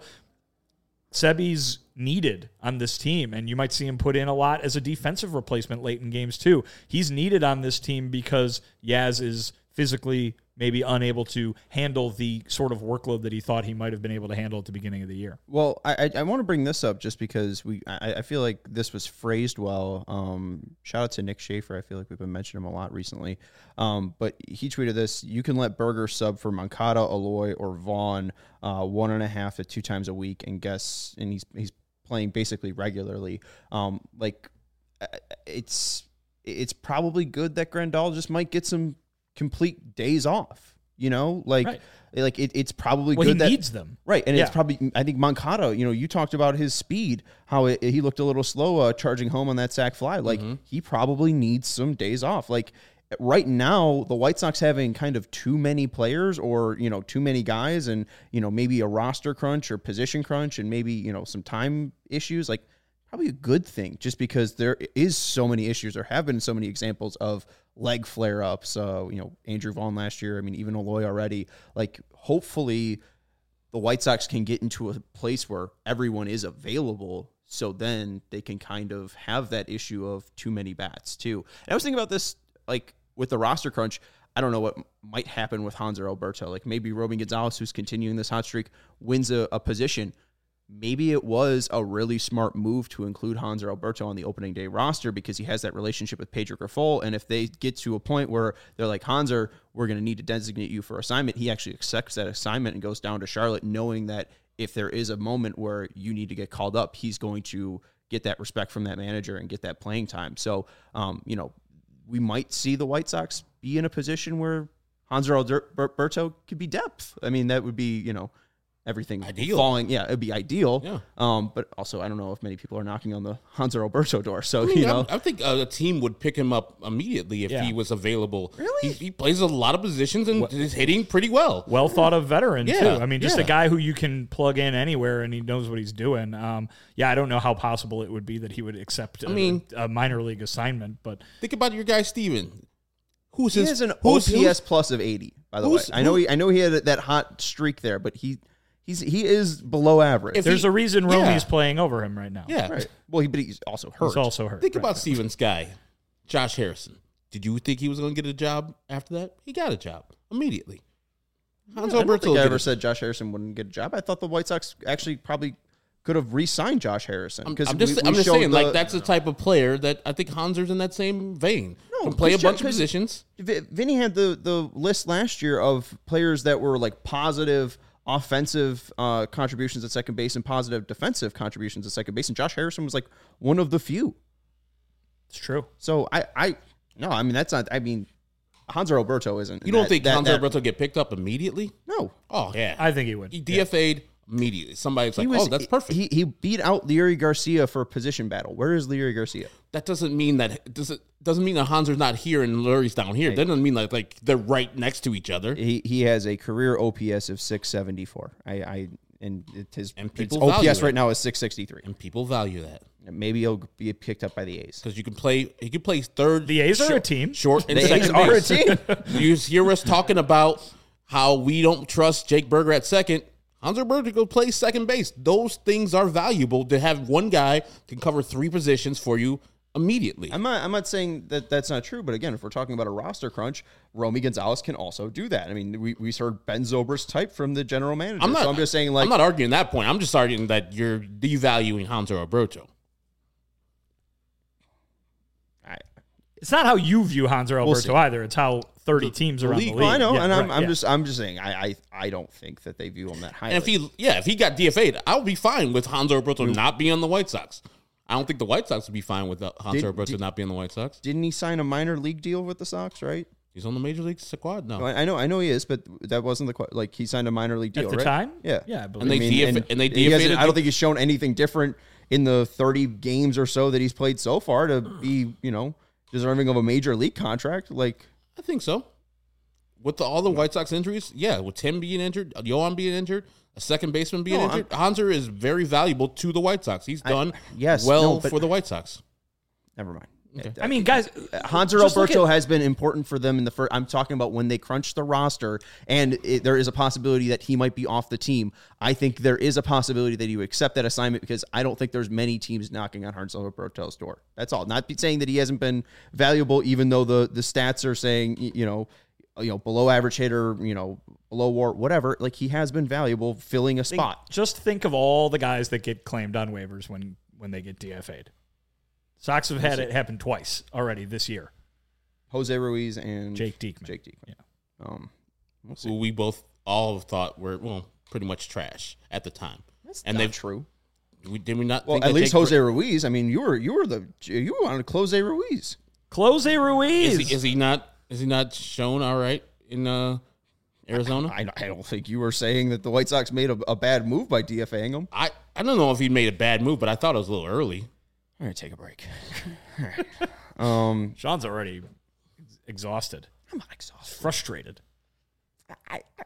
Sebi's needed on this team, and you might see him put in a lot as a defensive replacement late in games too. He's needed on this team because Yaz is physically maybe unable to handle the sort of workload that he thought he might have been able to handle at the beginning of the year. Well, I I, I want to bring this up just because we I, I feel like this was phrased well. Um, shout out to Nick Schaefer. I feel like we've been mentioning him a lot recently. Um, but he tweeted this: you can let Berger sub for Moncada, Eloy, or Vaughn uh, one and a half to two times a week, and guess and he's he's playing basically regularly. Um, like it's it's probably good that Grandal just might get some complete days off, you know, like, right. like it, it's probably well, good he that needs them. Right. And yeah. it's probably, I think Moncada, you know, you talked about his speed, how it, he looked a little slow, uh, charging home on that sac fly. Like mm-hmm. he probably needs some days off. Like right now, the White Sox having kind of too many players or, you know, too many guys and, you know, maybe a roster crunch or position crunch and maybe, you know, some time issues, like probably a good thing just because there is so many issues. There have been so many examples of leg flare-ups, uh, you know, Andrew Vaughn last year. I mean, even Eloy already. Like, hopefully the White Sox can get into a place where everyone is available so then they can kind of have that issue of too many bats, too. And I was thinking about this, like, with the roster crunch. I don't know what might happen with Hanser Alberto. Like, maybe Robin Gonzalez, who's continuing this hot streak, wins a, a position. Maybe it was a really smart move to include Hanser Alberto on the opening day roster because he has that relationship with Pedro Grifol. And if they get to a point where they're like, Hanser, we're going to need to designate you for assignment, he actually accepts that assignment and goes down to Charlotte knowing that if there is a moment where you need to get called up, he's going to get that respect from that manager and get that playing time. So, um, you know, we might see the White Sox be in a position where Hanser Alberto could be depth. I mean, that would be, you know, everything ideal. falling. Yeah, it'd be ideal. Yeah. Um, but also, I don't know if many people are knocking on the Hanser Alberto door. So, I mean, you know. I, I think uh, a team would pick him up immediately if yeah. he was available. Really? He, he plays a lot of positions and is hitting pretty well. Well thought of veteran, yeah. too. I mean, just yeah. a guy who you can plug in anywhere and he knows what he's doing. Um, yeah, I don't know how possible it would be that he would accept a, I mean, a minor league assignment. But think about your guy, Steven. Who's he his, has an who's, O P S plus of eighty, by the way. I know he I know he had that hot streak there, but he he's he is below average. If There's he, a reason yeah. Romy's playing over him right now. Yeah. Right. Well, he, but he's also hurt. He's also hurt. Think right, about right. Steven's guy, Josh Harrison. Did you think he was going to get a job after that? He got a job immediately. Hans I don't Alberto think I did ever it. said Josh Harrison wouldn't get a job. I thought the White Sox actually probably could have re-signed Josh Harrison. I'm, because I'm just, we, we I'm just showed saying, the, like, that's the type of player that I think Hanser's in that same vein. No, Can play a because bunch Josh- of positions. V- Vinny had the, the list last year of players that were like positive offensive uh, contributions at second base and positive defensive contributions at second base, and Josh Harrison was like one of the few. It's true. So I, I no, I mean that's not. I mean, Hanser Alberto isn't. You don't that, think that, Hanser that, Alberto get picked up immediately? No, Oh, yeah. I think he would. He D F A'd immediately. Somebody's like, He was- oh, that's perfect. He he beat out Leary Garcia for a position battle. Where is Leary Garcia? that doesn't mean that doesn't doesn't mean that Hanser's not here and Lurie's down here. That doesn't mean like like they're right next to each other. He he has a career O P S of six seventy-four. I I and it, his And its people O P value S that. right now is six sixty-three. And people value that Maybe he'll be picked up by the A's. because you can play. He can play third. The A's are short, a team. Short and The A's second are a base. team. You hear us talking about how we don't trust Jake Berger at second. Hanser Berger go play second base. Those things are valuable to have one guy can cover three positions for you immediately. I'm not. I'm not saying that that's not true. But again, if we're talking about a roster crunch, Romy Gonzalez can also do that. I mean, we we heard Ben Zobrist type from the general manager. I'm not, so I'm just saying, like, I'm not arguing that point. I'm just arguing that you're devaluing Hanser Alberto. I, It's not how you view Hanser Alberto see. either. It's how thirty teams around the league. well, I know, Yeah, and I'm, right, I'm yeah. just I'm just saying, I, I I don't think that they view him that highly. And if he, yeah, if he got D F A'd, I would be fine with Hanser Alberto not being on the White Sox. I don't think the White Sox would be fine with Hanser Did- Alberto did- not being on the White Sox. Didn't he sign a minor league deal with the Sox? Right. He's on the Major League squad now. I I know, I know he is, but that wasn't the que- like he signed a minor league deal At the right? time? Yeah, Yeah, I believe. And they I mean, D F and and they he D F A'd hasn't- at I don't the- think he's shown anything different in the thirty games or so that he's played so far to be, you know, deserving of a major league contract. Like, I think so. With the, all the White Sox injuries, yeah, with Tim being injured, Yohan being injured, a second baseman being No, I'm- injured, Hanser is very valuable to the White Sox. He's I- done yes, well no, but- for the White Sox. never mind. Okay. I mean, guys, Hanser just look Alberto at- has been important for them in the first. I'm talking about when they crunch the roster, and it, there is a possibility that he might be off the team. I think there is a possibility that you accept that assignment because I don't think there's many teams knocking on Hanser Alberto's door. That's all. Not be saying that he hasn't been valuable, even though the the stats are saying y- you know, you know, below average hitter, you know, below war, whatever. Like he has been valuable filling a think- spot. just think of all the guys that get claimed on waivers when, when they get D F A'd. Sox have had it happen twice already this year. Jose Ruiz and Jake Diekman. Jake Diekman. Yeah. Um, we'll see. Who we both all thought were, well, pretty much trash at the time. That's and not they've true. We, did we not Well, think at that least Jake- Jose Ruiz. I mean, you were you were the you wanted to close Jose Ruiz. Close Ruiz. Is he, is he not is he not shown all right in uh, Arizona? I, I don't think you were saying that the White Sox made a, a bad move by DFAing him. I, I don't know if he made a bad move, but I thought it was a little early. All right, take a break. All right. Um, Sean's already exhausted, I'm not exhausted. frustrated. I, I,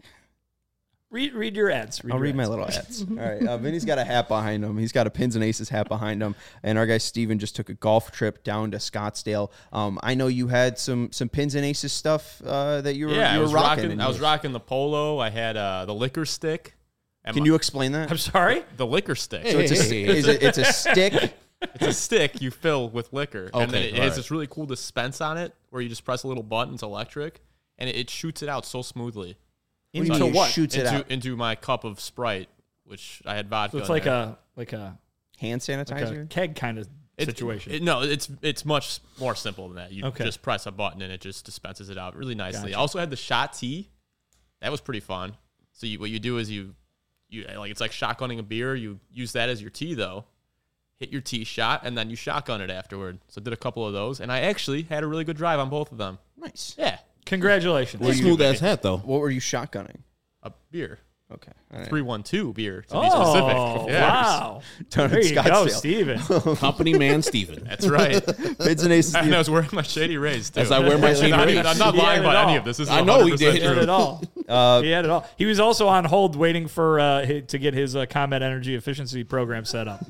Read read your ads. I'll your read my ads. little ads. All right, uh, Vinny's got a hat behind him. He's got a Pins and Aces hat behind him, and our guy Steven just took a golf trip down to Scottsdale. Um, I know you had some some Pins and Aces stuff uh, that you were, Yeah, you I were was rocking. rocking. I was rocking the polo. I had uh, the liquor stick. and Can my- you explain that? I'm sorry. the liquor stick? So it's a, Hey, hey, hey. is it, it's a stick. It's a stick you fill with liquor, and then Okay, it all has right. this really cool dispense on it where you just press a little button. It's electric, and it, it shoots it out so smoothly What do you Into mean it what? shoots it into out? into my cup of Sprite, which I had vodka. So it's in like there. a like a, Hand like sanitizer. a keg kind of It- situation. it- no, it's it's much more simple than that. You Okay. just press a button and it just dispenses it out really nicely. Gotcha. I also had the shot tea. That was pretty fun. So you, what you do is you you like it's like shotgunning a beer. You use that as your tea though. Hit your tea shot and then you shotgun it afterward. So I did a couple of those and I actually had a really good drive on both of them. Nice. Yeah, Congratulations. Well, smooth ass hat though. What were you shotgunning? a beer. Okay. All right. three one two beer to Oh, be specific. Yeah. wow. Down There in you go, Scottsdale. Steven. Company man Steven. That's right. Pins and Aces. And I was wearing my Shady Rays too. As I wear my Shady I'm not, Rays. even- I'm not He lying had it about any all. of this. This is I know he one hundred percent did. He had true. it all. Uh, he had it all. He was also on hold waiting for uh, hi- to get his uh, Combat Energy Efficiency program set up.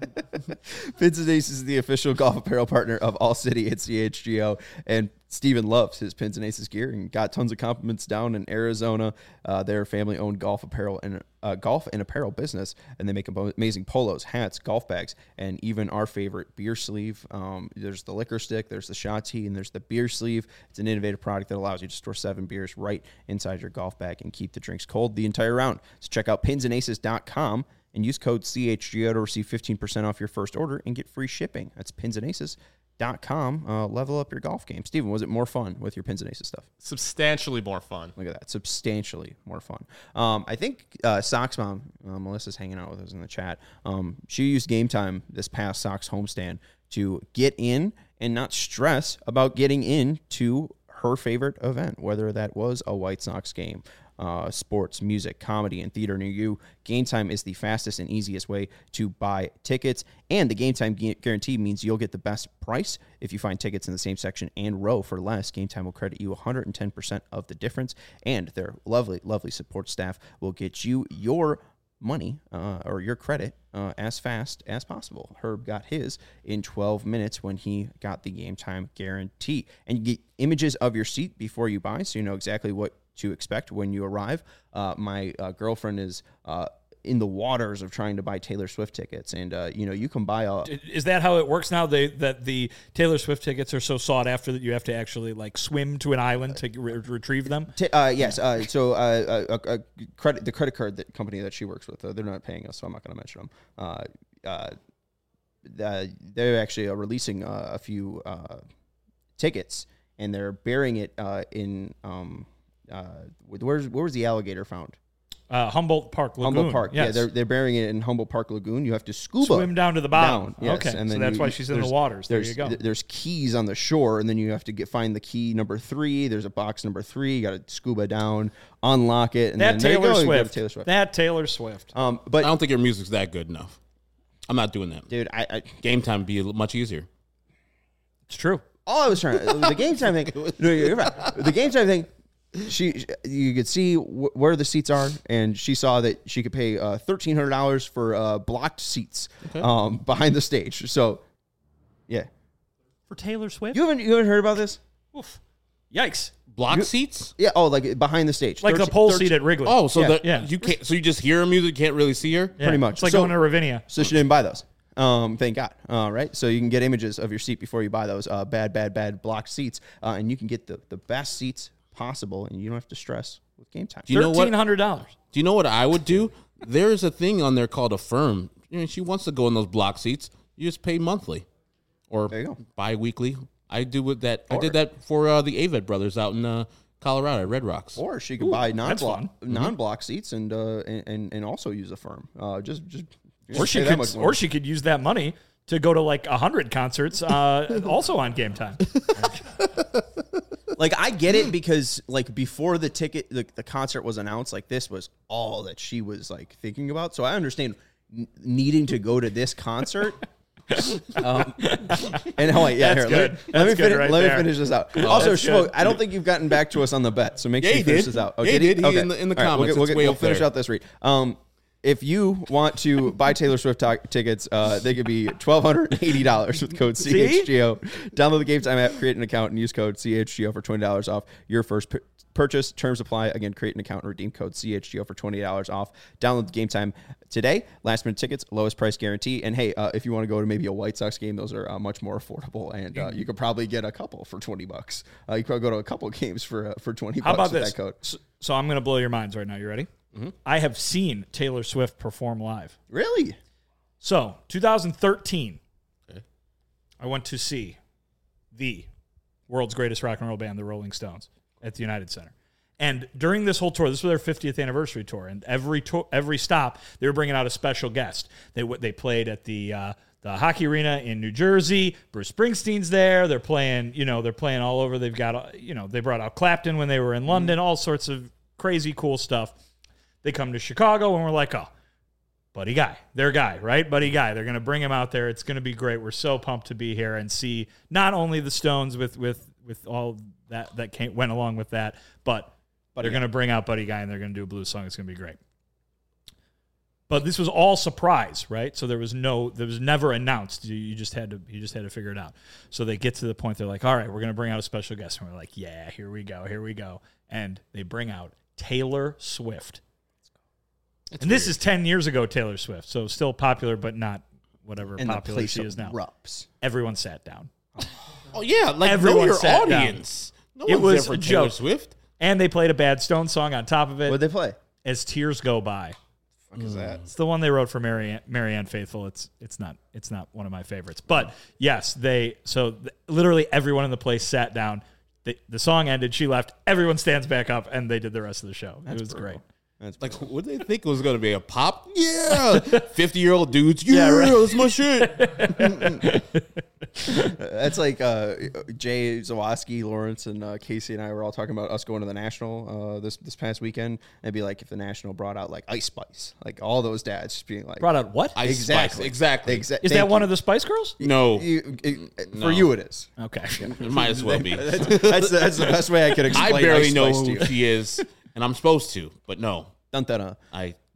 Pins and Aces is the official golf apparel partner of All City at C H G O, and Steven loves his Pins and Aces gear and got tons of compliments down in Arizona. Uh, they're a family-owned golf apparel and uh, golf and apparel business, and they make abo- amazing polos, hats, golf bags, and even our favorite beer sleeve. Um, there's the liquor stick, there's the shot tea, and there's the beer sleeve. It's an innovative product that allows you to store seven beers right inside your golf bag and keep the drinks cold the entire round. So check out pins and aces dot com and use code C H G O to receive fifteen percent off your first order and get free shipping. That's pins and aces dot com. Uh, level up your golf game. Steven, was it more fun with your Pins and Aces stuff? Substantially more fun. Look at that. Substantially more fun. Um, I think uh, Sox Mom, uh, Melissa's hanging out with us in the chat. Um, she used Game Time this past Sox homestand to get in and not stress about getting into her favorite event, whether that was a White Sox game, uh, sports, music, comedy, and theater near you. Game Time is the fastest and easiest way to buy tickets, and the Game Time gu- guarantee means you'll get the best price if you find tickets in the same section and row for less. Game Time will credit you one hundred ten percent of the difference, and their lovely, lovely support staff will get you your money uh, or your credit uh, as fast as possible. Herb got his in twelve minutes when he got the Game Time guarantee. And you get images of your seat before you buy, so you know exactly what to expect when you arrive. Uh, my uh, girlfriend is uh, in the waters of trying to buy Taylor Swift tickets, and uh, you know, you can buy a. Is that how it works now? They that the Taylor Swift tickets are so sought after that you have to actually like swim to an island to re- retrieve them? T- uh, yes. Uh, so uh, uh, uh, credit the credit card that company that she works with, uh, they're not paying us, so I'm not going to mention them. Uh, uh, uh, they're actually uh, releasing uh, a few uh, tickets, and they're burying it uh, in um, uh, where's where was the alligator found? Uh, Humboldt Park Lagoon. Humboldt Park. Yes. Yeah, they're they're burying it in Humboldt Park Lagoon. You have to scuba swim down to the bottom. Down, yes. Okay, And then so that's you- why you- she's in the there's- waters. There There's, you go. th- There's keys on the shore, and then you have to get find the key number three. There's a box number three. You got to scuba down, unlock it, and that then there you Taylor go, you go to Swift. Taylor Swift. That Taylor Swift. Um, I but don't think your music's that good enough. I'm not doing that. dude, I, I Game time would be much easier. It's true. all I was trying to the game time thing. No, you're right. The game time thing. She, you could see wh- where the seats are, and she saw that she could pay uh, thirteen hundred dollars for uh, blocked seats Okay. um, behind the stage. So, yeah, For Taylor Swift? you haven't you haven't heard about this? Oof. Yikes. Block You- seats? Yeah. Oh, like behind the stage, Like the thirteen pole thirteen seat at Wrigley. Oh, so Yeah. that Yeah. you can't. So you just hear her music, can't really see her. Yeah. pretty much. It's like So- going to Ravinia. So she didn't buy those. Um, thank God. All right. So you can get images of your seat before you buy those uh, bad, bad, bad blocked seats, uh, and you can get the, the best seats possible, and you don't have to stress with game time. Do you know what? thirteen hundred dollars. Do you know what I would do? There is a thing on there called Affirm. You know, she wants to go in those block seats. You just pay monthly or There you go. bi-weekly. I do with that. I Or- did that for uh, the Aved brothers out in uh, Colorado at Red Rocks. Or she could buy non-block fun. non-block seats and uh, and and and also use a firm. Uh, just just. just Or she pay that could, much more. or she could use that money to go to like a hundred concerts, uh, also on Game Time. Like, I get it because like before the ticket the, the concert was announced, like this was all that she was like thinking about. So I understand n- needing to go to this concert. um, and oh wait, yeah, That's here, let, good. me- let That's me good finish. right let there. me finish this out. also, that's Schmo, good. I don't think you've gotten back to us on the bet, so make sure Yeah, you he finish did. this out. Yeah, he did. He- in the- in the All right, comments, we'll, it's get- way we'll up finish there. out this read. Um, if you want to buy Taylor Swift t- tickets, uh, they could be twelve hundred eighty dollars with code C H G O. Download the Game Time app, create an account, and use code C H G O for twenty dollars off your first pu- purchase. Terms apply. Again, create an account and redeem code C H G O for twenty dollars off. Download the Game Time today. Last minute tickets, lowest price guarantee. And hey, uh, if you want to go to maybe a White Sox game, those are uh, much more affordable, and uh, you could probably get a couple for twenty bucks. Uh, you could probably go to a couple games for uh, for twenty How bucks about with this? that code. So, so I'm going to blow your minds right now. You ready? Mm-hmm. I have seen Taylor Swift perform live. Really? So, twenty thirteen, Okay. I went to see the world's greatest rock and roll band, the Rolling Stones, at the United Center. And during this whole tour, this was their fiftieth anniversary tour, and every tour, every stop, they were bringing out a special guest. They w- they played at the uh, the hockey arena in New Jersey. Bruce Springsteen's there. They're playing, you know, they're playing all over. They've got, uh, you know, they brought out Clapton when they were in London. All sorts of crazy cool stuff. They come to Chicago, and we're like, oh, Buddy Guy, their guy, right? Buddy Guy. They're going to bring him out there. It's going to be great. We're so pumped to be here and see not only the Stones with with with all that that came, went along with that, but they're going to bring out Buddy Guy and they're going to do a blues song. It's going to be great. But this was all surprise, right? So there was no, there was never announced. You, you just had to, you just had to figure it out. So they get to the point. They're like, all right, we're going to bring out a special guest, and we're like, yeah, here we go, here we go, and they bring out Taylor Swift. It's and this weird. is ten years ago, Taylor Swift. So still popular, but not whatever And the popular place she is now. erupts. Everyone sat down. Oh yeah, like Everyone know your sat down. audience. No It one's was there for a Taylor joke. Swift. And they played a bad Stone song on top of it. What'd they play? As Tears Go By. Fuck is that? It's the one they wrote for Marianne, Marianne Faithfull. It's it's not it's not one of my favorites. But yes, they so th- literally everyone in the place sat down. The, the song ended. She left. Everyone stands back up, and they did the rest of the show. it was great. That's Like, what did they think it was going to be? A pop? Yeah. fifty-year-old dudes. Yeah, Yeah, right. that's my shit. That's like uh, Jay Zawoski, Lawrence, and uh, Casey and I were all talking about us going to the National uh, this this past weekend. It'd be like if the National brought out like Ice Spice, like all those dads just being like, Brought out what? Ice exactly, Spice, exactly. Exa- Is thank that one you. of the Spice Girls? No. You, it- For No. you, it is. Okay. It might as well be. That's, that's, the, that's the best way I could I explain. barely Ice know Spice to who you. she is, and I'm supposed to, but no. Dun, dun, dun. I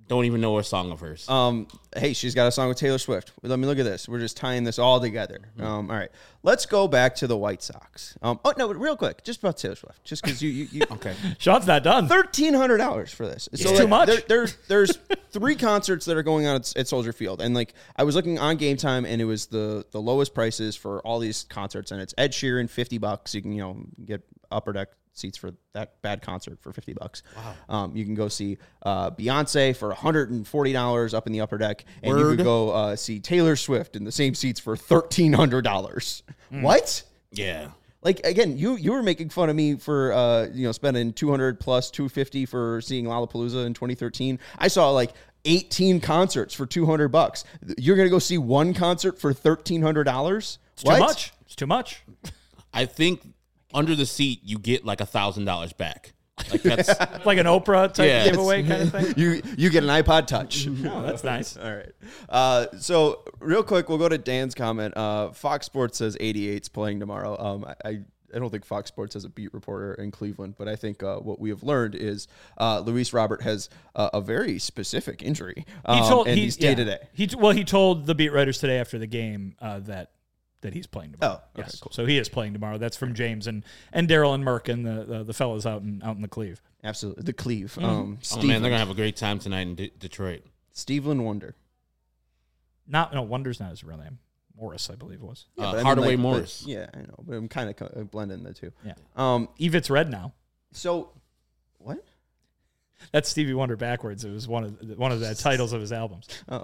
Don't even know a song of hers. Um, hey, she's got a song with Taylor Swift. Let me look at this. We're just tying this all together. Um, all right, let's go back to the White Sox. Um, oh no, real quick, just about Taylor Swift, just because you, you, you okay. Sean's not done. thirteen hundred dollars for this. It's too much. There, there's there's three concerts that are going on at, at Soldier Field, and like I was looking on Game Time, and it was the the lowest prices for all these concerts, and it's Ed Sheeran, fifty bucks. You can you know get upper deck seats for that bad concert for fifty bucks. Wow. Um, you can go see uh, Beyonce for one hundred forty dollars up in the upper deck, and Word. you could go uh, see Taylor Swift in the same seats for thirteen hundred dollars. Mm. What? Yeah. Like again, you you were making fun of me for uh you know spending two hundred plus two fifty for seeing Lollapalooza in twenty thirteen. I saw like eighteen concerts for two hundred bucks. You're gonna go see one concert for thirteen hundred dollars? It's too much. It's too much. I think under the seat you get like a thousand dollars back. Like that's like an Oprah type Yeah. giveaway kind of thing. You you get an iPod Touch. Oh, that's nice. All right. Uh, so real quick, we'll go to Dan's comment. Uh, Fox Sports says eighty-eight's playing tomorrow. Um, I. I don't think Fox Sports has a beat reporter in Cleveland, but I think uh, what we have learned is uh, Luis Robert has uh, a very specific injury, um, He told and he- he's day yeah. to day. He well, he told the beat writers today after the game uh, that that he's playing tomorrow. Oh, okay, yes. cool. So he is playing tomorrow. That's from James and and Daryl and Merck and the, the the fellas out in out in the Cleve. Absolutely, the Cleve. Mm-hmm. Um, oh man, they're gonna have a great time tonight in D- Detroit. Steveland Wonder. Not no Wonder's not his real name. Morris, I believe it was. Yeah, Uh, but I mean, Hardaway like, Morris. but- yeah, I know, but I'm kind of co- blending the two. Yeah. Um. Evitz Red now. So, what? That's Stevie Wonder backwards. It was one of the, one of the titles of his albums. Oh.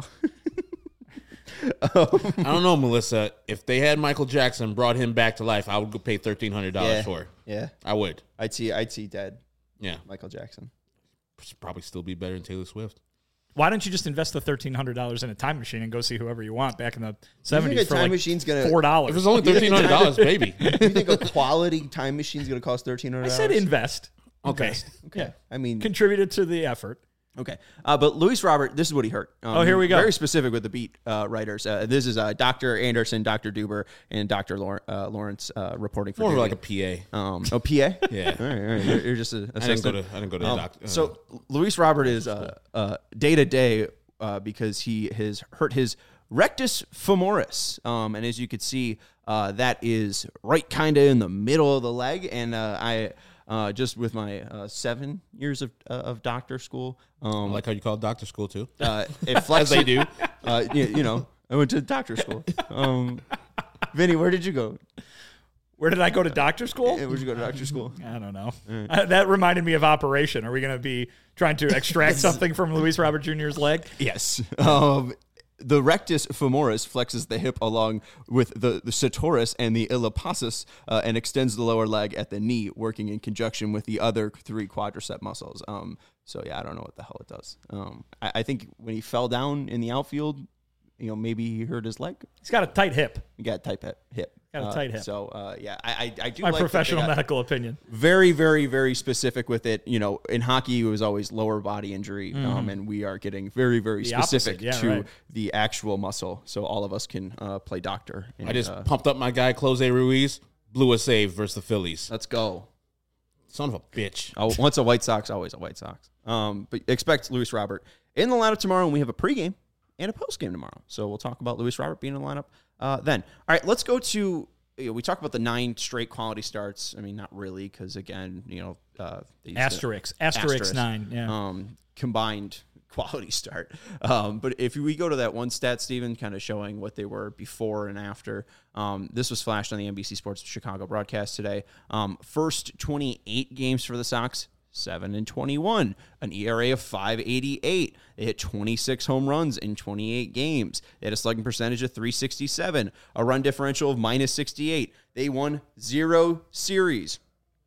I don't know, Melissa. If they had Michael Jackson brought him back to life, I would go pay thirteen hundred dollars Yeah. for it. Yeah. I would. I'd see. I'd see dead Yeah, Michael Jackson. probably still be better than Taylor Swift. Why don't you just invest the thirteen hundred dollars in a time machine and go see whoever you want back in the You think seventies a for time like machine's gonna? four If dollars? it's only thirteen hundred dollars, baby. You think a quality time machine's gonna cost thirteen hundred I dollars? said invest. Okay. Invest. Okay. Yeah. I mean, Contributed to the effort. okay. Uh, but Luis Robert, this is what he hurt. Um, Oh, here we go. Very specific with the beat uh, writers. Uh, this is uh, Doctor Anderson, Doctor Duber, and Doctor Lawrence, uh, Lawrence uh, reporting for More Daily. like a P A. Um, oh, P A? Yeah. All right, all right. You're, you're just a I didn't go to. I didn't go to the Um, doctor. uh, so Luis Robert is uh, uh, day to day uh, because he has hurt his rectus femoris, um, and as you could see, uh, that is right kind of in the middle of the leg. And uh, I uh, just with my uh, seven years of uh, of doctor school, I um, like how you call it doctor school too. uh, it As flexes. they do. Uh, you, you know, I went to doctor school. Um, Vinny, where did you go? Where did I go to doctor school? Where'd you go to doctor school? I don't know. Uh, that reminded me of Operation. Are we going to be trying to extract something from Luis Robert Junior's leg? Yes. Um, the rectus femoris flexes the hip along with the, the sartorius and the iliopsoas uh, and extends the lower leg at the knee, working in conjunction with the other three quadricep muscles. Um, so, yeah, I don't know what the hell it does. Um, I, I think when he fell down in the outfield, you know, maybe he hurt his leg. He's got a tight hip. He got a tight hip. hip. Got a Uh, tight hip. So, uh, yeah, I, I, I do My like that they professional got medical opinion. very, very, very specific with it. You know, in hockey, it was always lower body injury, um, and we are getting very, very The specific opposite, yeah, to right. the actual muscle, so all of us can uh, play doctor. And, I just uh, pumped up my guy Close Ruiz, blew a save versus the Phillies. let's go. Son of a bitch. Oh, once a White Sox, always a White Sox. Um, but expect Luis Robert in the lineup tomorrow, and we have a pregame and a postgame tomorrow. So we'll talk about Luis Robert being in the lineup uh, then. All right, let's go to. You know, we talk about the nine straight quality starts. I mean, not really, because again, you know, uh, they used to- Asterix. Asterix, Asterisk. nine. Yeah. um, combined quality start. Um, but if we go to that one stat, Steven, kind of showing what they were before and after, um, this was flashed on the N B C Sports Chicago broadcast today. Um, first twenty-eight games for the Sox, seven and twenty-one, an E R A of five eighty-eight. They hit twenty-six home runs in twenty-eight games. They had a slugging percentage of three sixty-seven, a run differential of minus sixty-eight. They won zero series.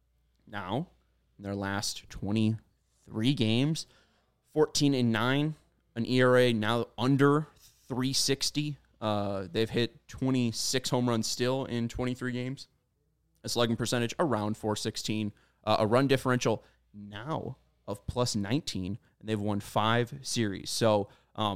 Now, in their last twenty-three games, fourteen and nine, an E R A now under three sixty. Uh, they've hit twenty-six home runs still in twenty-three games. A slugging percentage around four sixteen. Uh, a run differential now of plus nineteen, and they've won five series. So, um,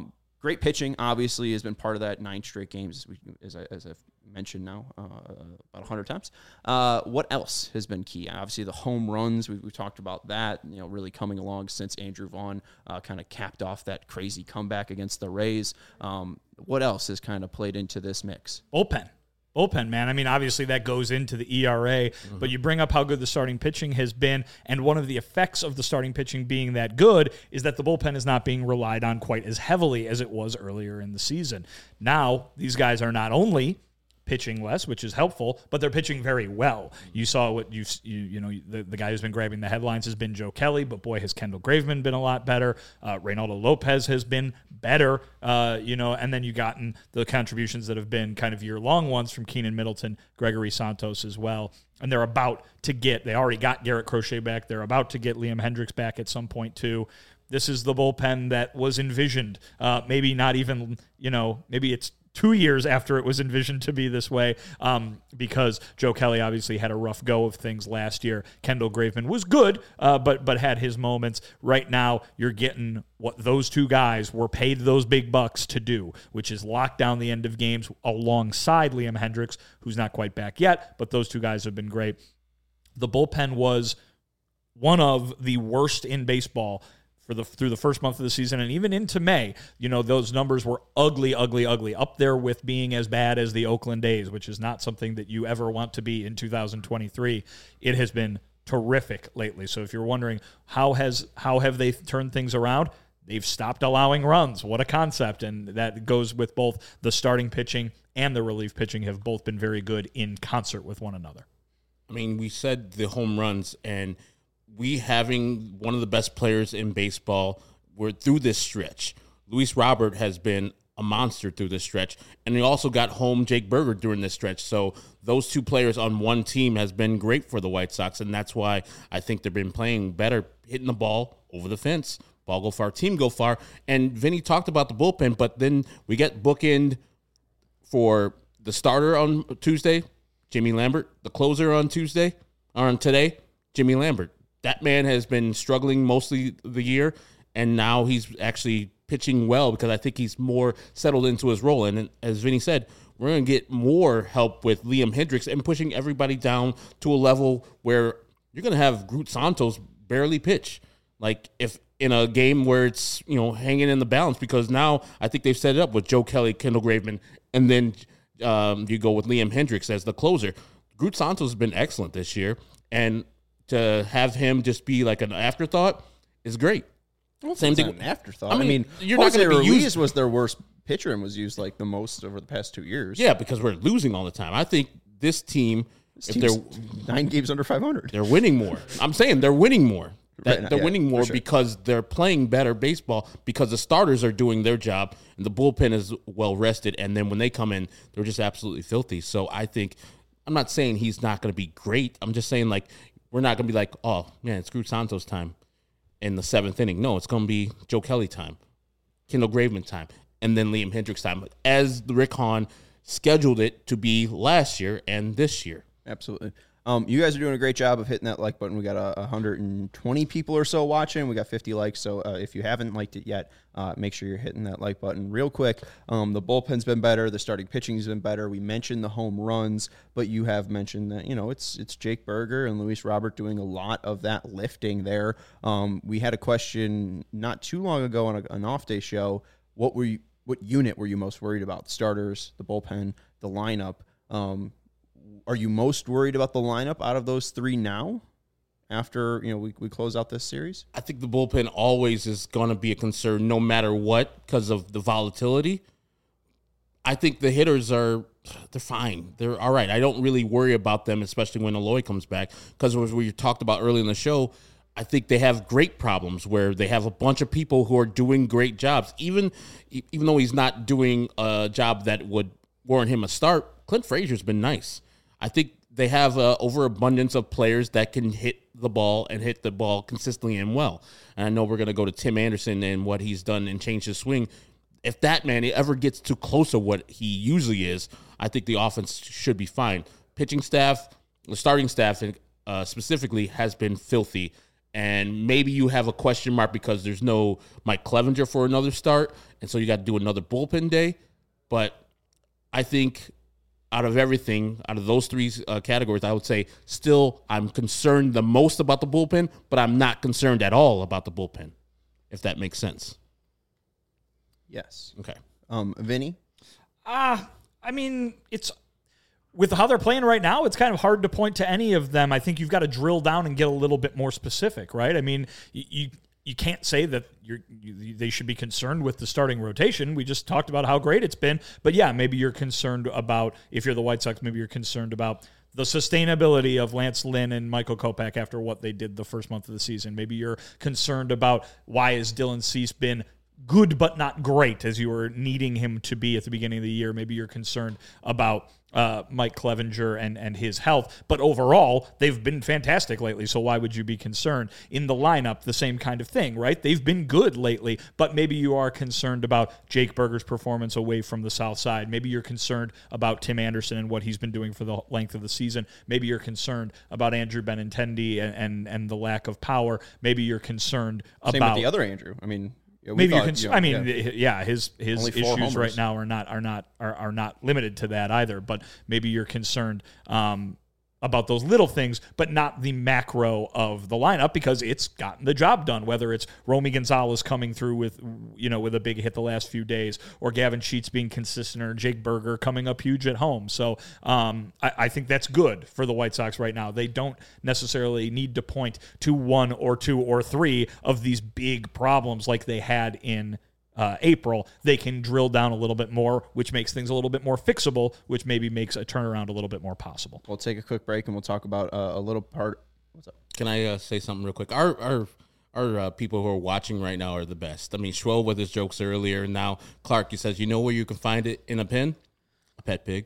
great pitching, obviously, has been part of that nine straight games, as, we, as, I, as I've mentioned now uh, about one hundred times. Uh, what else has been key? Obviously, the home runs, we, we've talked about that, you know, really coming along since Andrew Vaughn uh, kind of capped off that crazy comeback against the Rays. Um, what else has kind of played into this mix? Bullpen. Bullpen, man. I mean, obviously that goes into the E R A, mm-hmm. but you bring up how good the starting pitching has been, and one of the effects of the starting pitching being that good is that the bullpen is not being relied on quite as heavily as it was earlier in the season. Now, these guys are not only pitching less, which is helpful, but they're pitching very well. You saw what you've, you you know, the, the guy who's been grabbing the headlines has been Joe Kelly, but boy, has Kendall Graveman been a lot better. Uh, Reynaldo Lopez has been better, uh, you know, and then you gotten the contributions that have been kind of year-long ones from Keenan Middleton, Gregory Santos as well. And they're about to get, they already got Garrett Crochet back. They're about to get Liam Hendricks back at some point too. This is the bullpen that was envisioned. Uh, maybe not even, you know, maybe it's two years after it was envisioned to be this way, um, because Joe Kelly obviously had a rough go of things last year. Kendall Graveman was good, uh, but but had his moments. Right now, you're getting what those two guys were paid those big bucks to do, which is lock down the end of games alongside Liam Hendricks, who's not quite back yet, but those two guys have been great. The bullpen was one of the worst in baseball for the through the first month of the season, and even into May. You know, those numbers were ugly, ugly, ugly, up there with being as bad as the Oakland A's, which is not something that you ever want to be in two thousand twenty-three. It has been terrific lately. So if you're wondering how has how have they turned things around, they've stopped allowing runs. What a concept. And that goes with both the starting pitching and the relief pitching have both been very good in concert with one another. I mean, we said the home runs, and we having one of the best players in baseball, we're through this stretch. Luis Robert has been a monster through this stretch, and we also got home Jake Berger during this stretch. So those two players on one team has been great for the White Sox, and that's why I think they've been playing better, hitting the ball over the fence. Ball go far, team go far. And Vinny talked about the bullpen, but then we get bookend for the starter on Tuesday, Jimmy Lambert, the closer on Tuesday, or on today, Jimmy Lambert. That man has been struggling mostly the year, and now he's actually pitching well because I think he's more settled into his role. And as Vinny said, we're going to get more help with Liam Hendricks and pushing everybody down to a level where you're going to have Groot Santos barely pitch. Like if in a game where it's, you know, hanging in the balance, because now I think they've set it up with Joe Kelly, Kendall Graveman, and then um, you go with Liam Hendricks as the closer. Groot Santos has been excellent this year, and to have him just be like an afterthought is great. Well, Same thing. An afterthought. I mean, I mean you're Jose not going to be Ruiz used. was their worst pitcher and was used like the most over the past two years. Yeah, because we're losing all the time. I think this team, This if team's they're nine games under five hundred. they're winning more. I'm saying they're winning more. That, Right, they're yeah, winning for more sure. because they're playing better baseball, because the starters are doing their job and the bullpen is well rested. And then when they come in, they're just absolutely filthy. So I think, I'm not saying he's not going to be great. I'm just saying, like, we're not going to be like, oh, man, it's Groot Santos time in the seventh inning. No, it's going to be Joe Kelly time, Kendall Graveman time, and then Liam Hendricks time, as the Rick Hahn scheduled it to be last year and this year. Absolutely. Um, you guys are doing a great job of hitting that like button. We got uh, one hundred twenty people or so watching. We got fifty likes. So uh, if you haven't liked it yet, uh, make sure you're hitting that like button real quick. Um, the bullpen's been better. The starting pitching's been better. We mentioned the home runs, but you have mentioned that, you know, it's it's Jake Berger and Luis Robert doing a lot of that lifting there. Um, we had a question not too long ago on a, an off-day show. What were you, what unit were you most worried about? The starters, the bullpen, the lineup? Um, Are you most worried about the lineup out of those three now after, you know, we, we close out this series? I think the bullpen always is going to be a concern no matter what because of the volatility. I think the hitters are, they're fine. They're all right. I don't really worry about them, especially when Eloy comes back, because as we talked about early in the show, I think they have great problems where they have a bunch of people who are doing great jobs. Even, even though he's not doing a job that would warrant him a start, Clint Frazier's been nice. I think they have an overabundance of players that can hit the ball and hit the ball consistently and well. And I know we're going to go to Tim Anderson and what he's done and change his swing. If that man ever gets too close to what he usually is, I think the offense should be fine. Pitching staff, the starting staff uh, specifically, has been filthy. and maybe you have a question mark because there's no Mike Clevenger for another start, and so you got to do another bullpen day. But I think out of everything, out of those three uh, categories, I would say still I'm concerned the most about the bullpen, but I'm not concerned at all about the bullpen, if that makes sense. Yes. Okay. Um, Vinny? Ah, uh, I mean, it's with how they're playing right now, it's kind of hard to point to any of them. I think you've got to drill down and get a little bit more specific, right? I mean, you you, you can't say that you're, you, they should be concerned with the starting rotation. We just talked about how great it's been. But yeah, maybe you're concerned about, if you're the White Sox, maybe you're concerned about the sustainability of Lance Lynn and Michael Kopech after what they did the first month of the season. Maybe you're concerned about why has Dylan Cease been good but not great as you were needing him to be at the beginning of the year. Maybe you're concerned about uh, Mike Clevenger and, and his health. But overall, they've been fantastic lately, so why would you be concerned? In the lineup, the same kind of thing, right? They've been good lately, but maybe you are concerned about Jake Berger's performance away from the South Side. Maybe you're concerned about Tim Anderson and what he's been doing for the length of the season. Maybe you're concerned about Andrew Benintendi and, and, and the lack of power. Maybe you're concerned Same about... with the other Andrew. I mean... Yeah, Maybe thought, you can. you know, I mean, yeah. yeah, his his issues homers. right now are not are not are, are not limited to that either. But maybe you're concerned um, about those little things, but not the macro of the lineup because it's gotten the job done. Whether it's Romy Gonzalez coming through with you know with a big hit the last few days, or Gavin Sheets being consistent, or Jake Berger coming up huge at home. So um, I, I think that's good for the White Sox right now. They don't necessarily need to point to one or two or three of these big problems like they had in Uh, April. They can drill down a little bit more, which makes things a little bit more fixable, which maybe makes a turnaround a little bit more possible. We'll take a quick break and we'll talk about uh, a little part. What's up? Can I uh, say something real quick? Our our our uh, people who are watching right now are the best. I mean, Schwell with his jokes earlier. Now Clark, he says, you know where you can find it in a pen? A pet pig.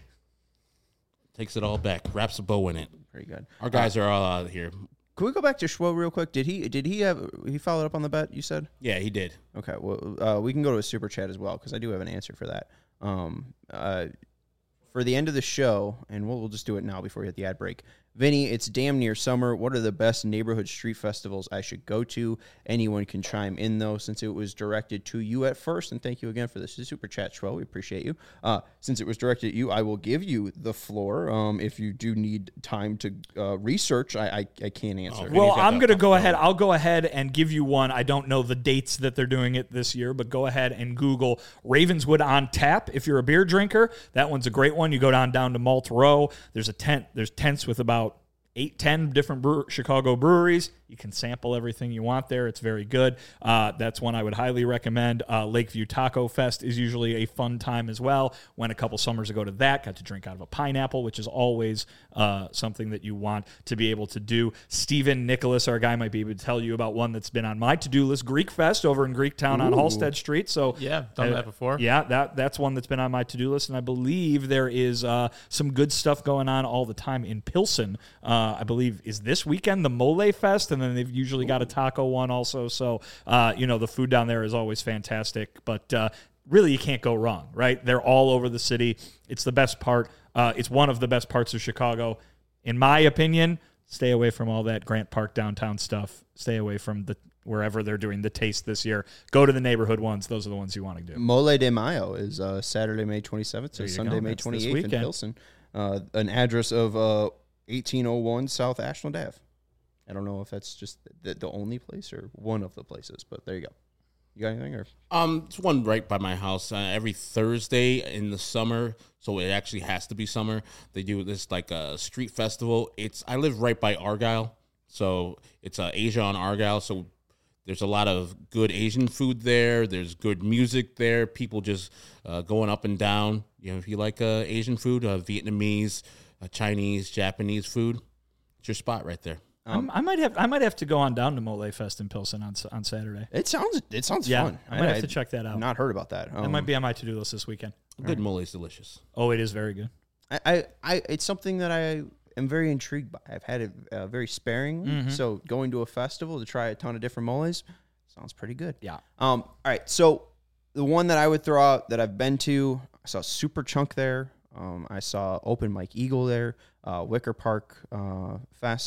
Takes it all back. Wraps a bow in it. Pretty good. Our guys uh, are all out of here. Can we go back to Schwo real quick? Did he did he have he followed up on the bet you said? Yeah, he did. Okay, well uh, we can go to a super chat as well because I do have an answer for that. Um, uh, for the end of the show, and we'll, we'll just do it now before we hit the ad break. Vinny, it's damn near summer. What are the best neighborhood street festivals I should go to? Anyone can chime in, though, since it was directed to you at first. And thank you again for this super chat, Schwo. We appreciate you. Uh, since it was directed at you, I will give you the floor. Um, if you do need time to uh, research, I, I, I can't answer. Oh, well, I'm going to go ahead. I'll go ahead and give you one. I don't know the dates that they're doing it this year, but go ahead and Google Ravenswood on Tap. If you're a beer drinker, that one's a great one. You go down, down to Malt Row. There's a tent. There's tents with about eight, ten different brewer, Chicago breweries. You can sample everything you want there. It's very good. Uh, that's one I would highly recommend. Uh, Lakeview Taco Fest is usually a fun time as well. Went a couple summers ago to that. Got to drink out of a pineapple, which is always uh, something that you want to be able to do. Stephen Nicholas, our guy, might be able to tell you about one that's been on my to-do list, Greek Fest over in Greektown on Halstead Street. So yeah, done uh, that before. Yeah, that that's one that's been on my to-do list, and I believe there is uh, some good stuff going on all the time in Pilsen. Uh, I believe is this weekend the Mole Fest, and then they've usually got a taco one also. So, uh, you know, the food down there is always fantastic, but uh, really you can't go wrong, right? They're all over the city. It's the best part. Uh, it's one of the best parts of Chicago. In my opinion, stay away from all that Grant Park downtown stuff. Stay away from the wherever they're doing the taste this year. Go to the neighborhood ones. Those are the ones you want to do. Mole de Mayo is uh, Saturday, May twenty-seventh to Sunday, go. May That's this twenty-eighth in weekend. Pilsen. Uh, an address of uh, eighteen oh one South Ashland Ave. I don't know if that's just the, the only place or one of the places, but there you go. You got anything? Or Um, it's one right by my house. Uh, every Thursday in the summer, so it actually has to be summer. They do this like a street festival. It's I live right by Argyle, so it's uh, Asia on Argyle. So there's a lot of good Asian food there. There's good music there. People just uh, going up and down. You know, if you like uh, Asian food, uh, Vietnamese, uh, Chinese, Japanese food, it's your spot right there. Um, I might have I might have to go on down to Mole Fest in Pilsen on on Saturday. it sounds it sounds Yeah, fun. I might have to check that out. I've not heard about that. Um, That might be on my to-do list this weekend. Good mole is delicious. Oh, it is very good. I, I, I it's something that I am very intrigued by. I've had it uh, very sparingly. Mm-hmm. So going to a festival to try a ton of different moles sounds pretty good. Yeah. Um. All right. So the one that I would throw out that I've been to, I saw Super Chunk there. Um. I saw Open Mike Eagle there. Uh. Wicker Park uh, Fest.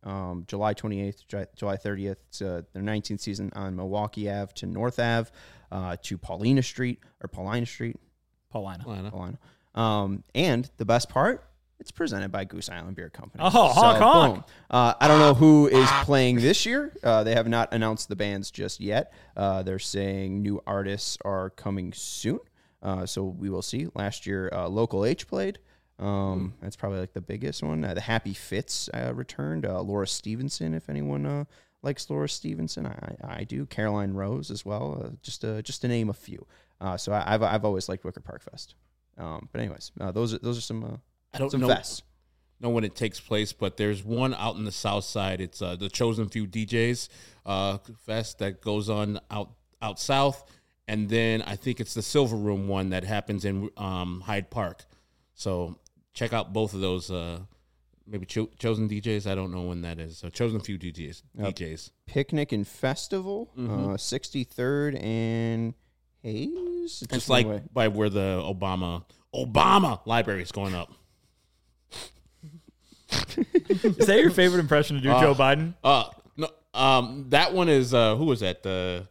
um, July twenty-eighth, July thirtieth. It's uh, their nineteenth season on Milwaukee Ave to North Ave uh, to Paulina Street or Paulina Street. Paulina. Paulina. Paulina. Um, and the best part, it's presented by Goose Island Beer Company. Oh, honk, honk. Boom. Uh, I don't know who is playing this year. Uh, they have not announced the bands just yet. Uh, they're saying new artists are coming soon. Uh, so we will see. Last year, uh, Local H played. Um, that's probably like the biggest one. Uh, the Happy Fits uh, returned. Uh, Laura Stevenson, if anyone uh, likes Laura Stevenson, I, I do. Caroline Rose as well. Uh, just uh, just to name a few. Uh, so I, I've I've always liked Wicker Park Fest. Um, but anyways, uh, those are those are some. Uh, I don't some know, fests. know when it takes place, but there's one out in the south side. It's uh, the Chosen Few D Js uh, fest that goes on out out south, and then I think it's the Silver Room one that happens in um, Hyde Park. So check out both of those. Uh, maybe Cho- Chosen D Js. I don't know when that is. So Chosen Few D Js. Yep. D Js. Picnic and Festival, Mhm. uh, sixty-third and Hayes. It's It's just like one way. by where the Obama Obama library is going up. Is that your favorite impression to do, Uh, Joe Biden? Uh no, um, that one is uh, who was that? The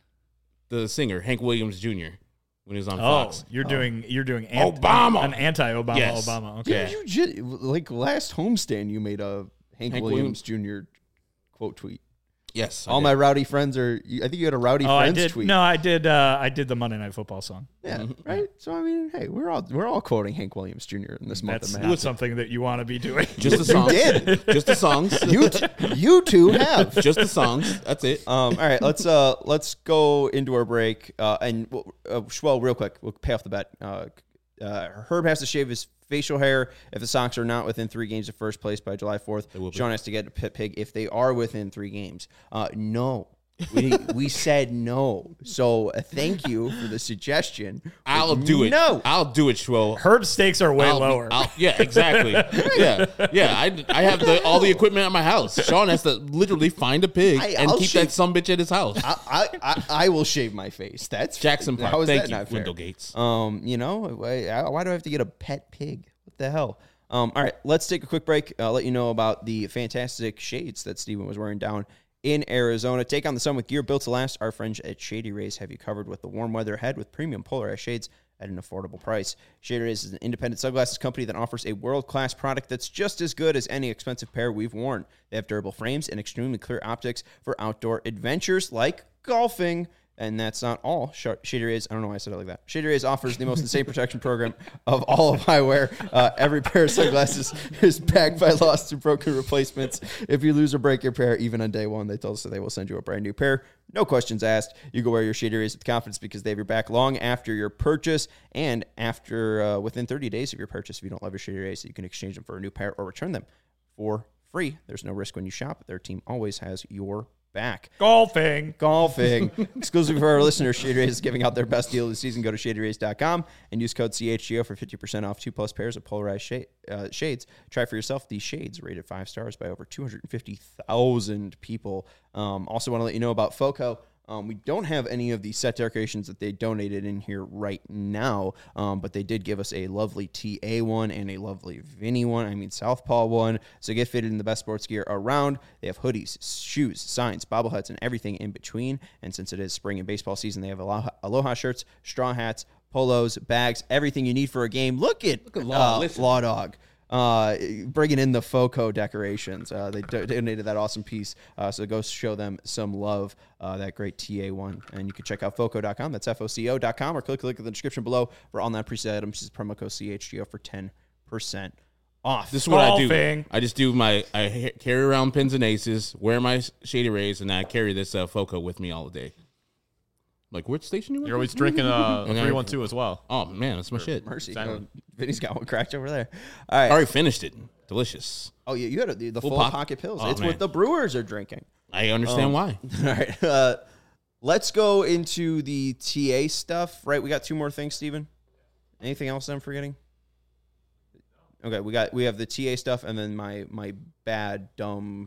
the singer Hank Williams Junior when he was on Oh, Fox. you're doing you're doing ant- Obama. an anti-Obama Yes. Obama. Okay. Yeah. You ju- like last homestand, you made a Hank, Hank Williams, Junior quote tweet. Yes, I All did. my rowdy friends are. you- I think you had a rowdy Oh, I friends did. tweet. No, I did. Uh, I did the Monday Night Football song. Yeah, right. So I mean, hey, we're all we're all quoting Hank Williams Junior in this month That's of not May. something that you want to be doing. just the songs. did. Just the songs. You t- you two have. just the songs. That's it. Um, all right, let's uh let's go into our break. Uh, and uh, well, real quick, we'll pay off the bet. Uh, uh, Herb has to shave his facial hair if the Sox are not within three games of first place by July fourth. will be. Sean has to get a pit pig if they are within three games. Uh, no. we we said no. So uh, thank you for the suggestion. I'll do it. No. I'll do it, Schwo. Herb's stakes are way I'll be- lower. I'll- yeah, exactly. yeah, yeah. I, I have the, all the equipment at my house. Sean has to literally find a pig I- and I'll keep shave- that sumbitch at his house. I, I, I, I will shave my face. That's Jackson Park. How is Thank that you, not fair? Window Gates. Um, you know, why, why do I have to get a pet pig? What the hell? Um, all right, let's take a quick break. I'll let you know about the fantastic shades that Steven was wearing down in Arizona. Take on the sun with gear built to last. Our friends at Shady Rays have you covered with the warm weather ahead with premium polarized shades at an affordable price. Shady Rays is an independent sunglasses company that offers a world-class product that's just as good as any expensive pair we've worn. They have durable frames and extremely clear optics for outdoor adventures like golfing. And that's not all. Sh- Shady Rays, I don't know why I said it like that. Shady Rays offers the most insane protection program of all of eyewear. Uh, every pair of sunglasses is backed by lost or broken replacements. If you lose or break your pair, even on day one, they told us that they will send you a brand new pair. No questions asked. You go wear your Shady Rays with confidence because they have your back long after your purchase and after uh, within thirty days of your purchase. If you don't love your Shady Rays, you can exchange them for a new pair or return them for free. There's no risk when you shop. Their team always has your back. Golfing. Golfing. Exclusive for our listeners, Shady Rays is giving out their best deal of the season. Go to shady rays dot com and use code C H G O for fifty percent off two plus pairs of polarized shade, uh, shades. Try for yourself these shades rated five stars by over two hundred fifty thousand people. Um, also want to let you know about FOCO. Um, we don't have any of the set decorations that they donated in here right now, um, but they did give us a lovely T A one and a lovely Vinny one, I mean Southpaw one, so get fitted in the best sports gear around. They have hoodies, shoes, signs, bobbleheads, and everything in between, and since it is spring and baseball season, they have Aloha, Aloha shirts, straw hats, polos, bags, everything you need for a game. Look at, Look at Law, uh, listen. Law Dog. Uh, bringing in the FOCO decorations. Uh, they do- donated that awesome piece. Uh, so go show them some love, uh, that great T A one. And you can check out foco dot com. That's F O C O dot com, or click, click in the description below for all non-preset items. Use promo code C H G O for ten percent off. This is what I Golfing. do. I just do my, I ha- carry around pins and aces, wear my Shady Rays, and I carry this uh, FOCO with me all day. Like, which station you? You're always drinking uh, Okay. three one two as well. Oh man, that's my shit. Mercy. Exactly. Uh, Vinny's got one cracked over there. All right. I already finished it. Delicious. Oh, yeah, you had a, the, the Full full pocket. pocket pills. Oh, it's man. what the Brewers are drinking. I understand Um, why. All right. Uh, let's go into the T A stuff, right? We got two more things, Steven. Anything else I'm forgetting? Okay, we got we have the T A stuff and then my my bad, dumb,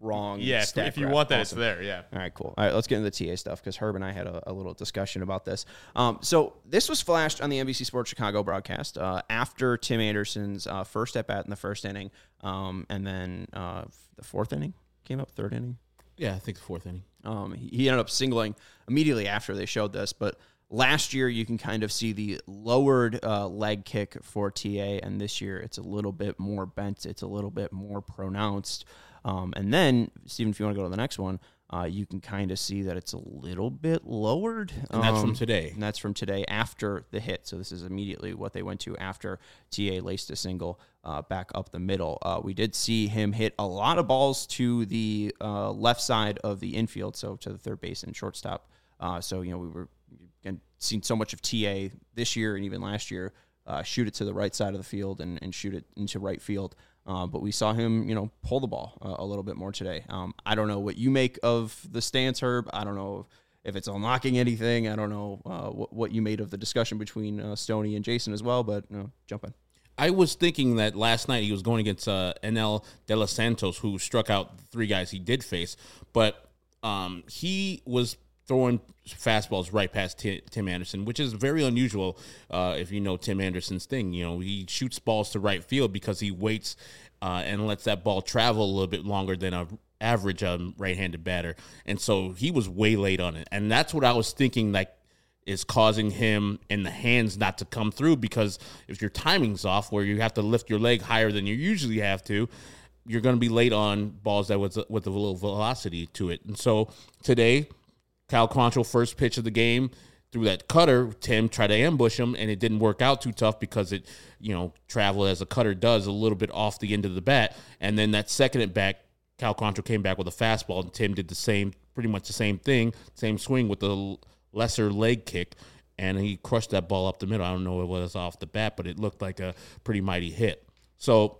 wrong. Yeah, if, stat if you graph. want that, Awesome. it's there. Yeah. All right, cool. All right, let's get into the T A stuff because Herb and I had a, a little discussion about this. Um, so this was flashed on the N B C Sports Chicago broadcast uh, after Tim Anderson's uh, first at bat in the first inning, um, and then uh, the fourth inning came up, third inning. Yeah, I think the fourth inning. Um, he, he ended up singling immediately after they showed this, but last year you can kind of see the lowered uh, leg kick for T A, and this year it's a little bit more bent, it's a little bit more pronounced. Um, and then, Steven, if you want to go to the next one, uh, you can kind of see that it's a little bit lowered. And that's um, from today. And that's from today after the hit. So this is immediately what they went to after T A laced a single uh, back up the middle. Uh, we did see him hit a lot of balls to the uh, left side of the infield, so to the third base and shortstop. Uh, so, you know, we were again, seen so much of T A this year and even last year uh, shoot it to the right side of the field and, and shoot it into right field. Uh, but we saw him, you know, pull the ball uh, a little bit more today. Um, I don't know what you make of the stance, Herb. I don't know if it's unlocking anything. I don't know uh, what, what you made of the discussion between uh, Stoney and Jason as well, but you know, jump in. I was thinking that last night he was going against uh, Enel De Los Santos, who struck out the three guys he did face, but um, he was throwing fastballs right past T- Tim Anderson, which is very unusual uh, if you know Tim Anderson's thing. You know, he shoots balls to right field because he waits uh, and lets that ball travel a little bit longer than a average um, right-handed batter. And so he was way late on it. And that's what I was thinking, like, is causing him and the hands not to come through, because if your timing's off where you have to lift your leg higher than you usually have to, you're going to be late on balls that with, with a little velocity to it. And so today, Cal Quantrill, first pitch of the game, threw that cutter. Tim tried to ambush him, and it didn't work out too tough because it, you know, traveled as a cutter does, a little bit off the end of the bat. And then that second at bat, Cal Quantrill came back with a fastball, and Tim did the same, pretty much the same thing, same swing with the lesser leg kick, and he crushed that ball up the middle. I don't know if it was off the bat, but it looked like a pretty mighty hit. So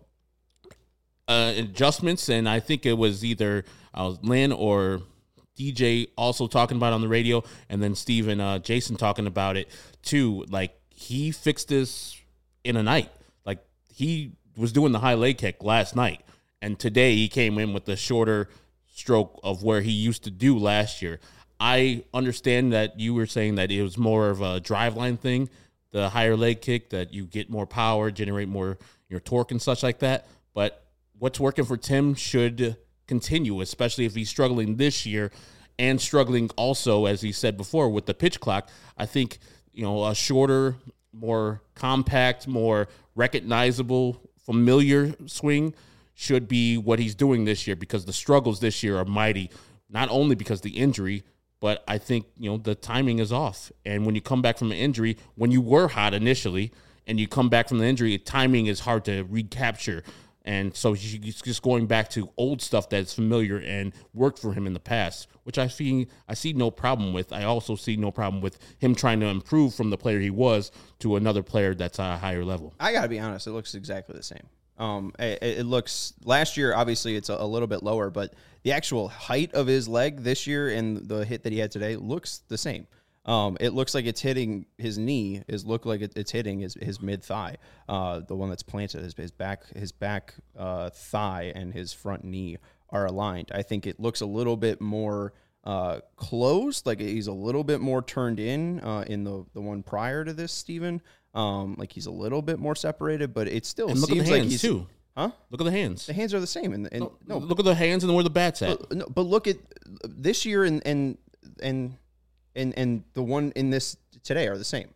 uh, adjustments, and I think it was either uh, Lynn or D J also talking about it on the radio, and then Steve and uh, Jason talking about it too. Like, he fixed this in a night. Like, he was doing the high leg kick last night, and today he came in with the shorter stroke of where he used to do last year. I understand that you were saying that it was more of a driveline thing, the higher leg kick, that you get more power, generate more your torque and such like that. But what's working for Tim should continue, especially if he's struggling this year and struggling also, as he said before, with the pitch clock. I think, you know, a shorter, more compact, more recognizable, familiar swing should be what he's doing this year, because the struggles this year are mighty, not only because of the injury, but I think, you know, the timing is off. And when you come back from an injury, when you were hot initially and you come back from the injury, timing is hard to recapture. And so he's just going back to old stuff that's familiar and worked for him in the past, which I see I see no problem with. I also see no problem with him trying to improve from the player he was to another player that's at a higher level. I got to be honest, it looks exactly the same. Um, it, it looks, last year, obviously it's a, a little bit lower, but the actual height of his leg this year and the hit that he had today looks the same. Um, it looks like it's hitting his knee. Is look like it, it's hitting his, his mid thigh, uh, the one that's planted. His, his back, his back uh, thigh and his front knee are aligned. I think it looks a little bit more uh, closed, like he's a little bit more turned in uh, in the the one prior to this, Steven. Um, like he's a little bit more separated, but it still And look seems at the like hands he's too. Huh? Look at the hands. The hands are the same, and, and no, no, look at the hands and where the bat's at. but, no, but look at this year and and and and and the one in this today are the same.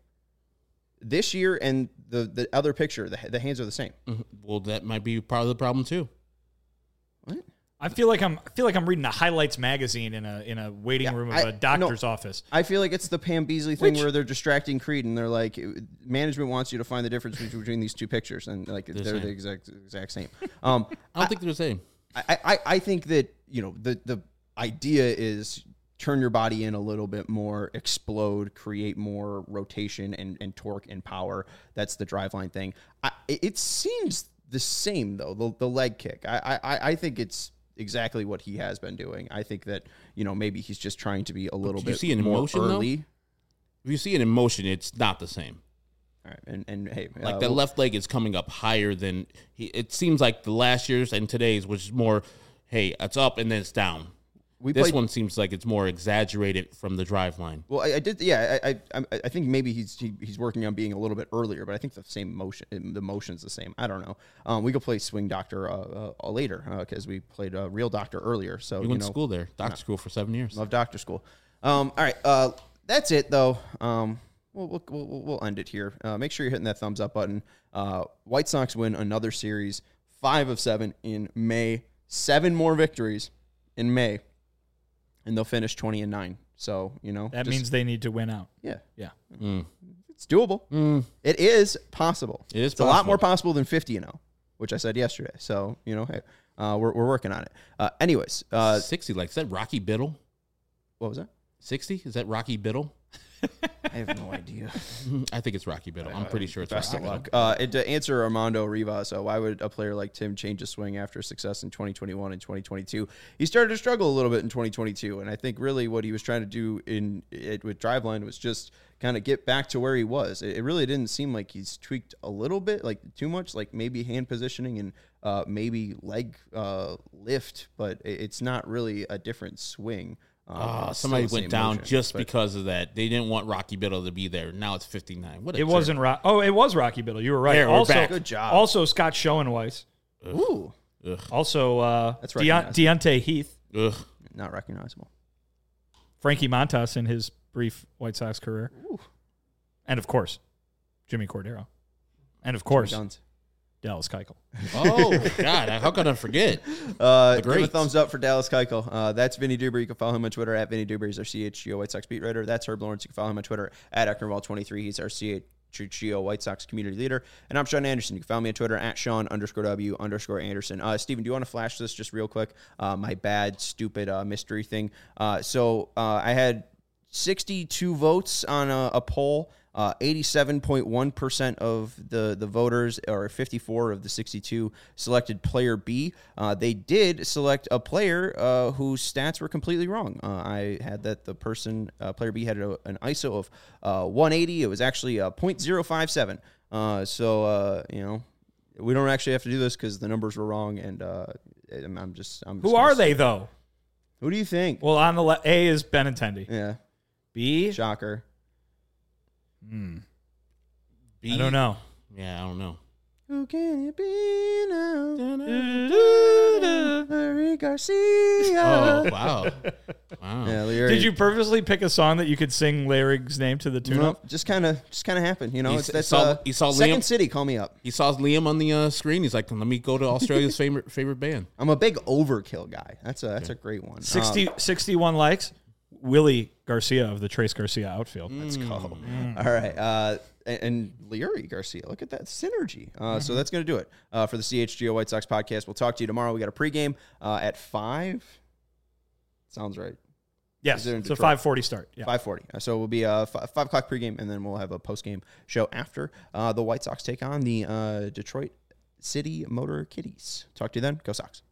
This year and the the other picture, the the hands are the same. Mhm. Well, that might be part of the problem too. What? I feel like I'm I feel like I'm reading a highlights magazine in a in a waiting Yeah, room of I- a doctor's no. office. I feel like it's the Pam Beasley thing Which- where they're distracting Creed and they're like, management wants you to find the difference between these two pictures, and like they're, same. the exact exact same. Um, I don't think they're the same. I, I, I think that, you know, the, the idea is turn your body in a little bit more, explode, create more rotation and, and torque and power. That's the driveline thing. I, it it seems the same, though, the, the leg kick. I, I, I think it's exactly what he has been doing. I think that, you know, maybe he's just trying to be a little do you bit see it in more motion, early. though? If you see it in motion, it's not the same. All right, and, and hey, Like uh, that we'll- left leg is coming up higher than he. It seems like the last year's and today's was more hey, it's up and then it's down. We this played, one seems like it's more exaggerated from the drive line. Well, I, I did. Yeah, I, I I think maybe he's he, he's working on being a little bit earlier, but I think the same motion, the motion's the same. I don't know. Um, we could play Swing Doctor uh, uh, later because uh, we played uh, Real Doctor earlier. So You you went know, to school there, doctor school for seven years. love Doctor School. Um, all right, uh, that's it though. Um, we'll we'll we'll, we'll end it here. Uh, make sure you're hitting that thumbs up button. Uh, White Sox win another series, five of seven in May. Seven more victories in May. And they'll finish twenty and nine. So, you know. That just, means they need to win out. Yeah. Yeah. Mm. It's doable. Mm. It is possible. It is It's a lot possible. more possible than fifty and oh, which I said yesterday. So, you know, hey, uh, we're, we're working on it. Uh, anyways. Uh, sixty, like, is that Rocky Biddle? what was that? sixty? Is that Rocky Biddle? I have no idea. I think it's Rocky Biddle. I'm pretty sure it's Best Rocky of Biddle. luck. Uh, and to answer Armando Rivas, uh, why would a player like Tim change his swing after success in twenty twenty-one and twenty twenty-two? He started to struggle a little bit in twenty twenty-two, and I think really what he was trying to do in it with Driveline was just kind of get back to where he was. It, it really didn't seem like he's tweaked a little bit, like too much, like maybe hand positioning and uh, maybe leg uh, lift, but it, it's not really a different swing. Uh, Oh, it's somebody still the went same down motion, just but- because of that. They didn't want Rocky Biddle to be there. Now it's fifty-nine. What a It jerk. wasn't Rock. Oh, it was Rocky Biddle. You were right. There, we're also, back. Good job. Also, Scott Schoenweiss. Ooh, Ugh. Also, uh, That's Deon- recognizable. Deontay Heath. Ugh. not recognizable. Frankie Montas in his brief White Sox career. Ooh. And, of course, Jimmy Cordero. And, of course, Guns. Dallas Keuchel. Oh, God. How could I forget? Uh, The give a greats. thumbs up for Dallas Keuchel. Uh, that's Vinny Duber. You can follow him on Twitter at Vinny Duber. He's our C H G O White Sox beat writer. That's Herb Lawrence. You can follow him on Twitter at Ecknerwall twenty-three. He's our C H G O White Sox community leader. And I'm Sean Anderson. You can follow me on Twitter at Sean underscore W underscore Anderson. Uh, Steven, do you want to flash this just real quick? Uh, my bad, stupid uh, mystery thing. Uh, so uh, I had sixty-two votes on a, a poll. Uh, eighty-seven point one percent of the, the voters, or fifty-four of the sixty-two, selected player B. Uh, they did select a player uh, whose stats were completely wrong. Uh, I had that the person, uh, player B, had a, an I S O of uh, one eighty. It was actually uh, point zero five seven. Uh, so, uh, you know, we don't actually have to do this because the numbers were wrong, and uh, I'm, I'm just... I'm just Who gonna are say- they, though? Who do you think? Well, on the left, A is Benintendi. Yeah, B, shocker. B? I don't know. Yeah, I don't know. Who can it be now? Larry Garcia. Oh, wow. Wow. Yeah, Larry. Did you purposely pick a song that you could sing Larry's name to the tune No, of? just kind of, just kind of happened. You know, He it's s- that's saw- uh, he saw Second Liam- City. Call me up. He saw Liam on the uh, screen. He's like, let me go to Australia's favorite favorite band. I'm a big Overkill guy. That's a that's a great one. sixty, Um, sixty-one likes. Willie Garcia of the Trace Garcia outfield. let's go. All right. Uh, and, and Larry Garcia. Look at that synergy. Uh, So that's going to do it uh, for the C H G O White Sox podcast. We'll talk to you tomorrow. We got a pregame uh, at five. Sounds right. Yes, Is it in it's a Detroit? five forty start. Yeah. five forty. So we'll be a five, five o'clock pregame, and then we'll have a postgame show after uh, the White Sox take on the uh, Detroit City Motor Kitties. Talk to you then. Go Sox.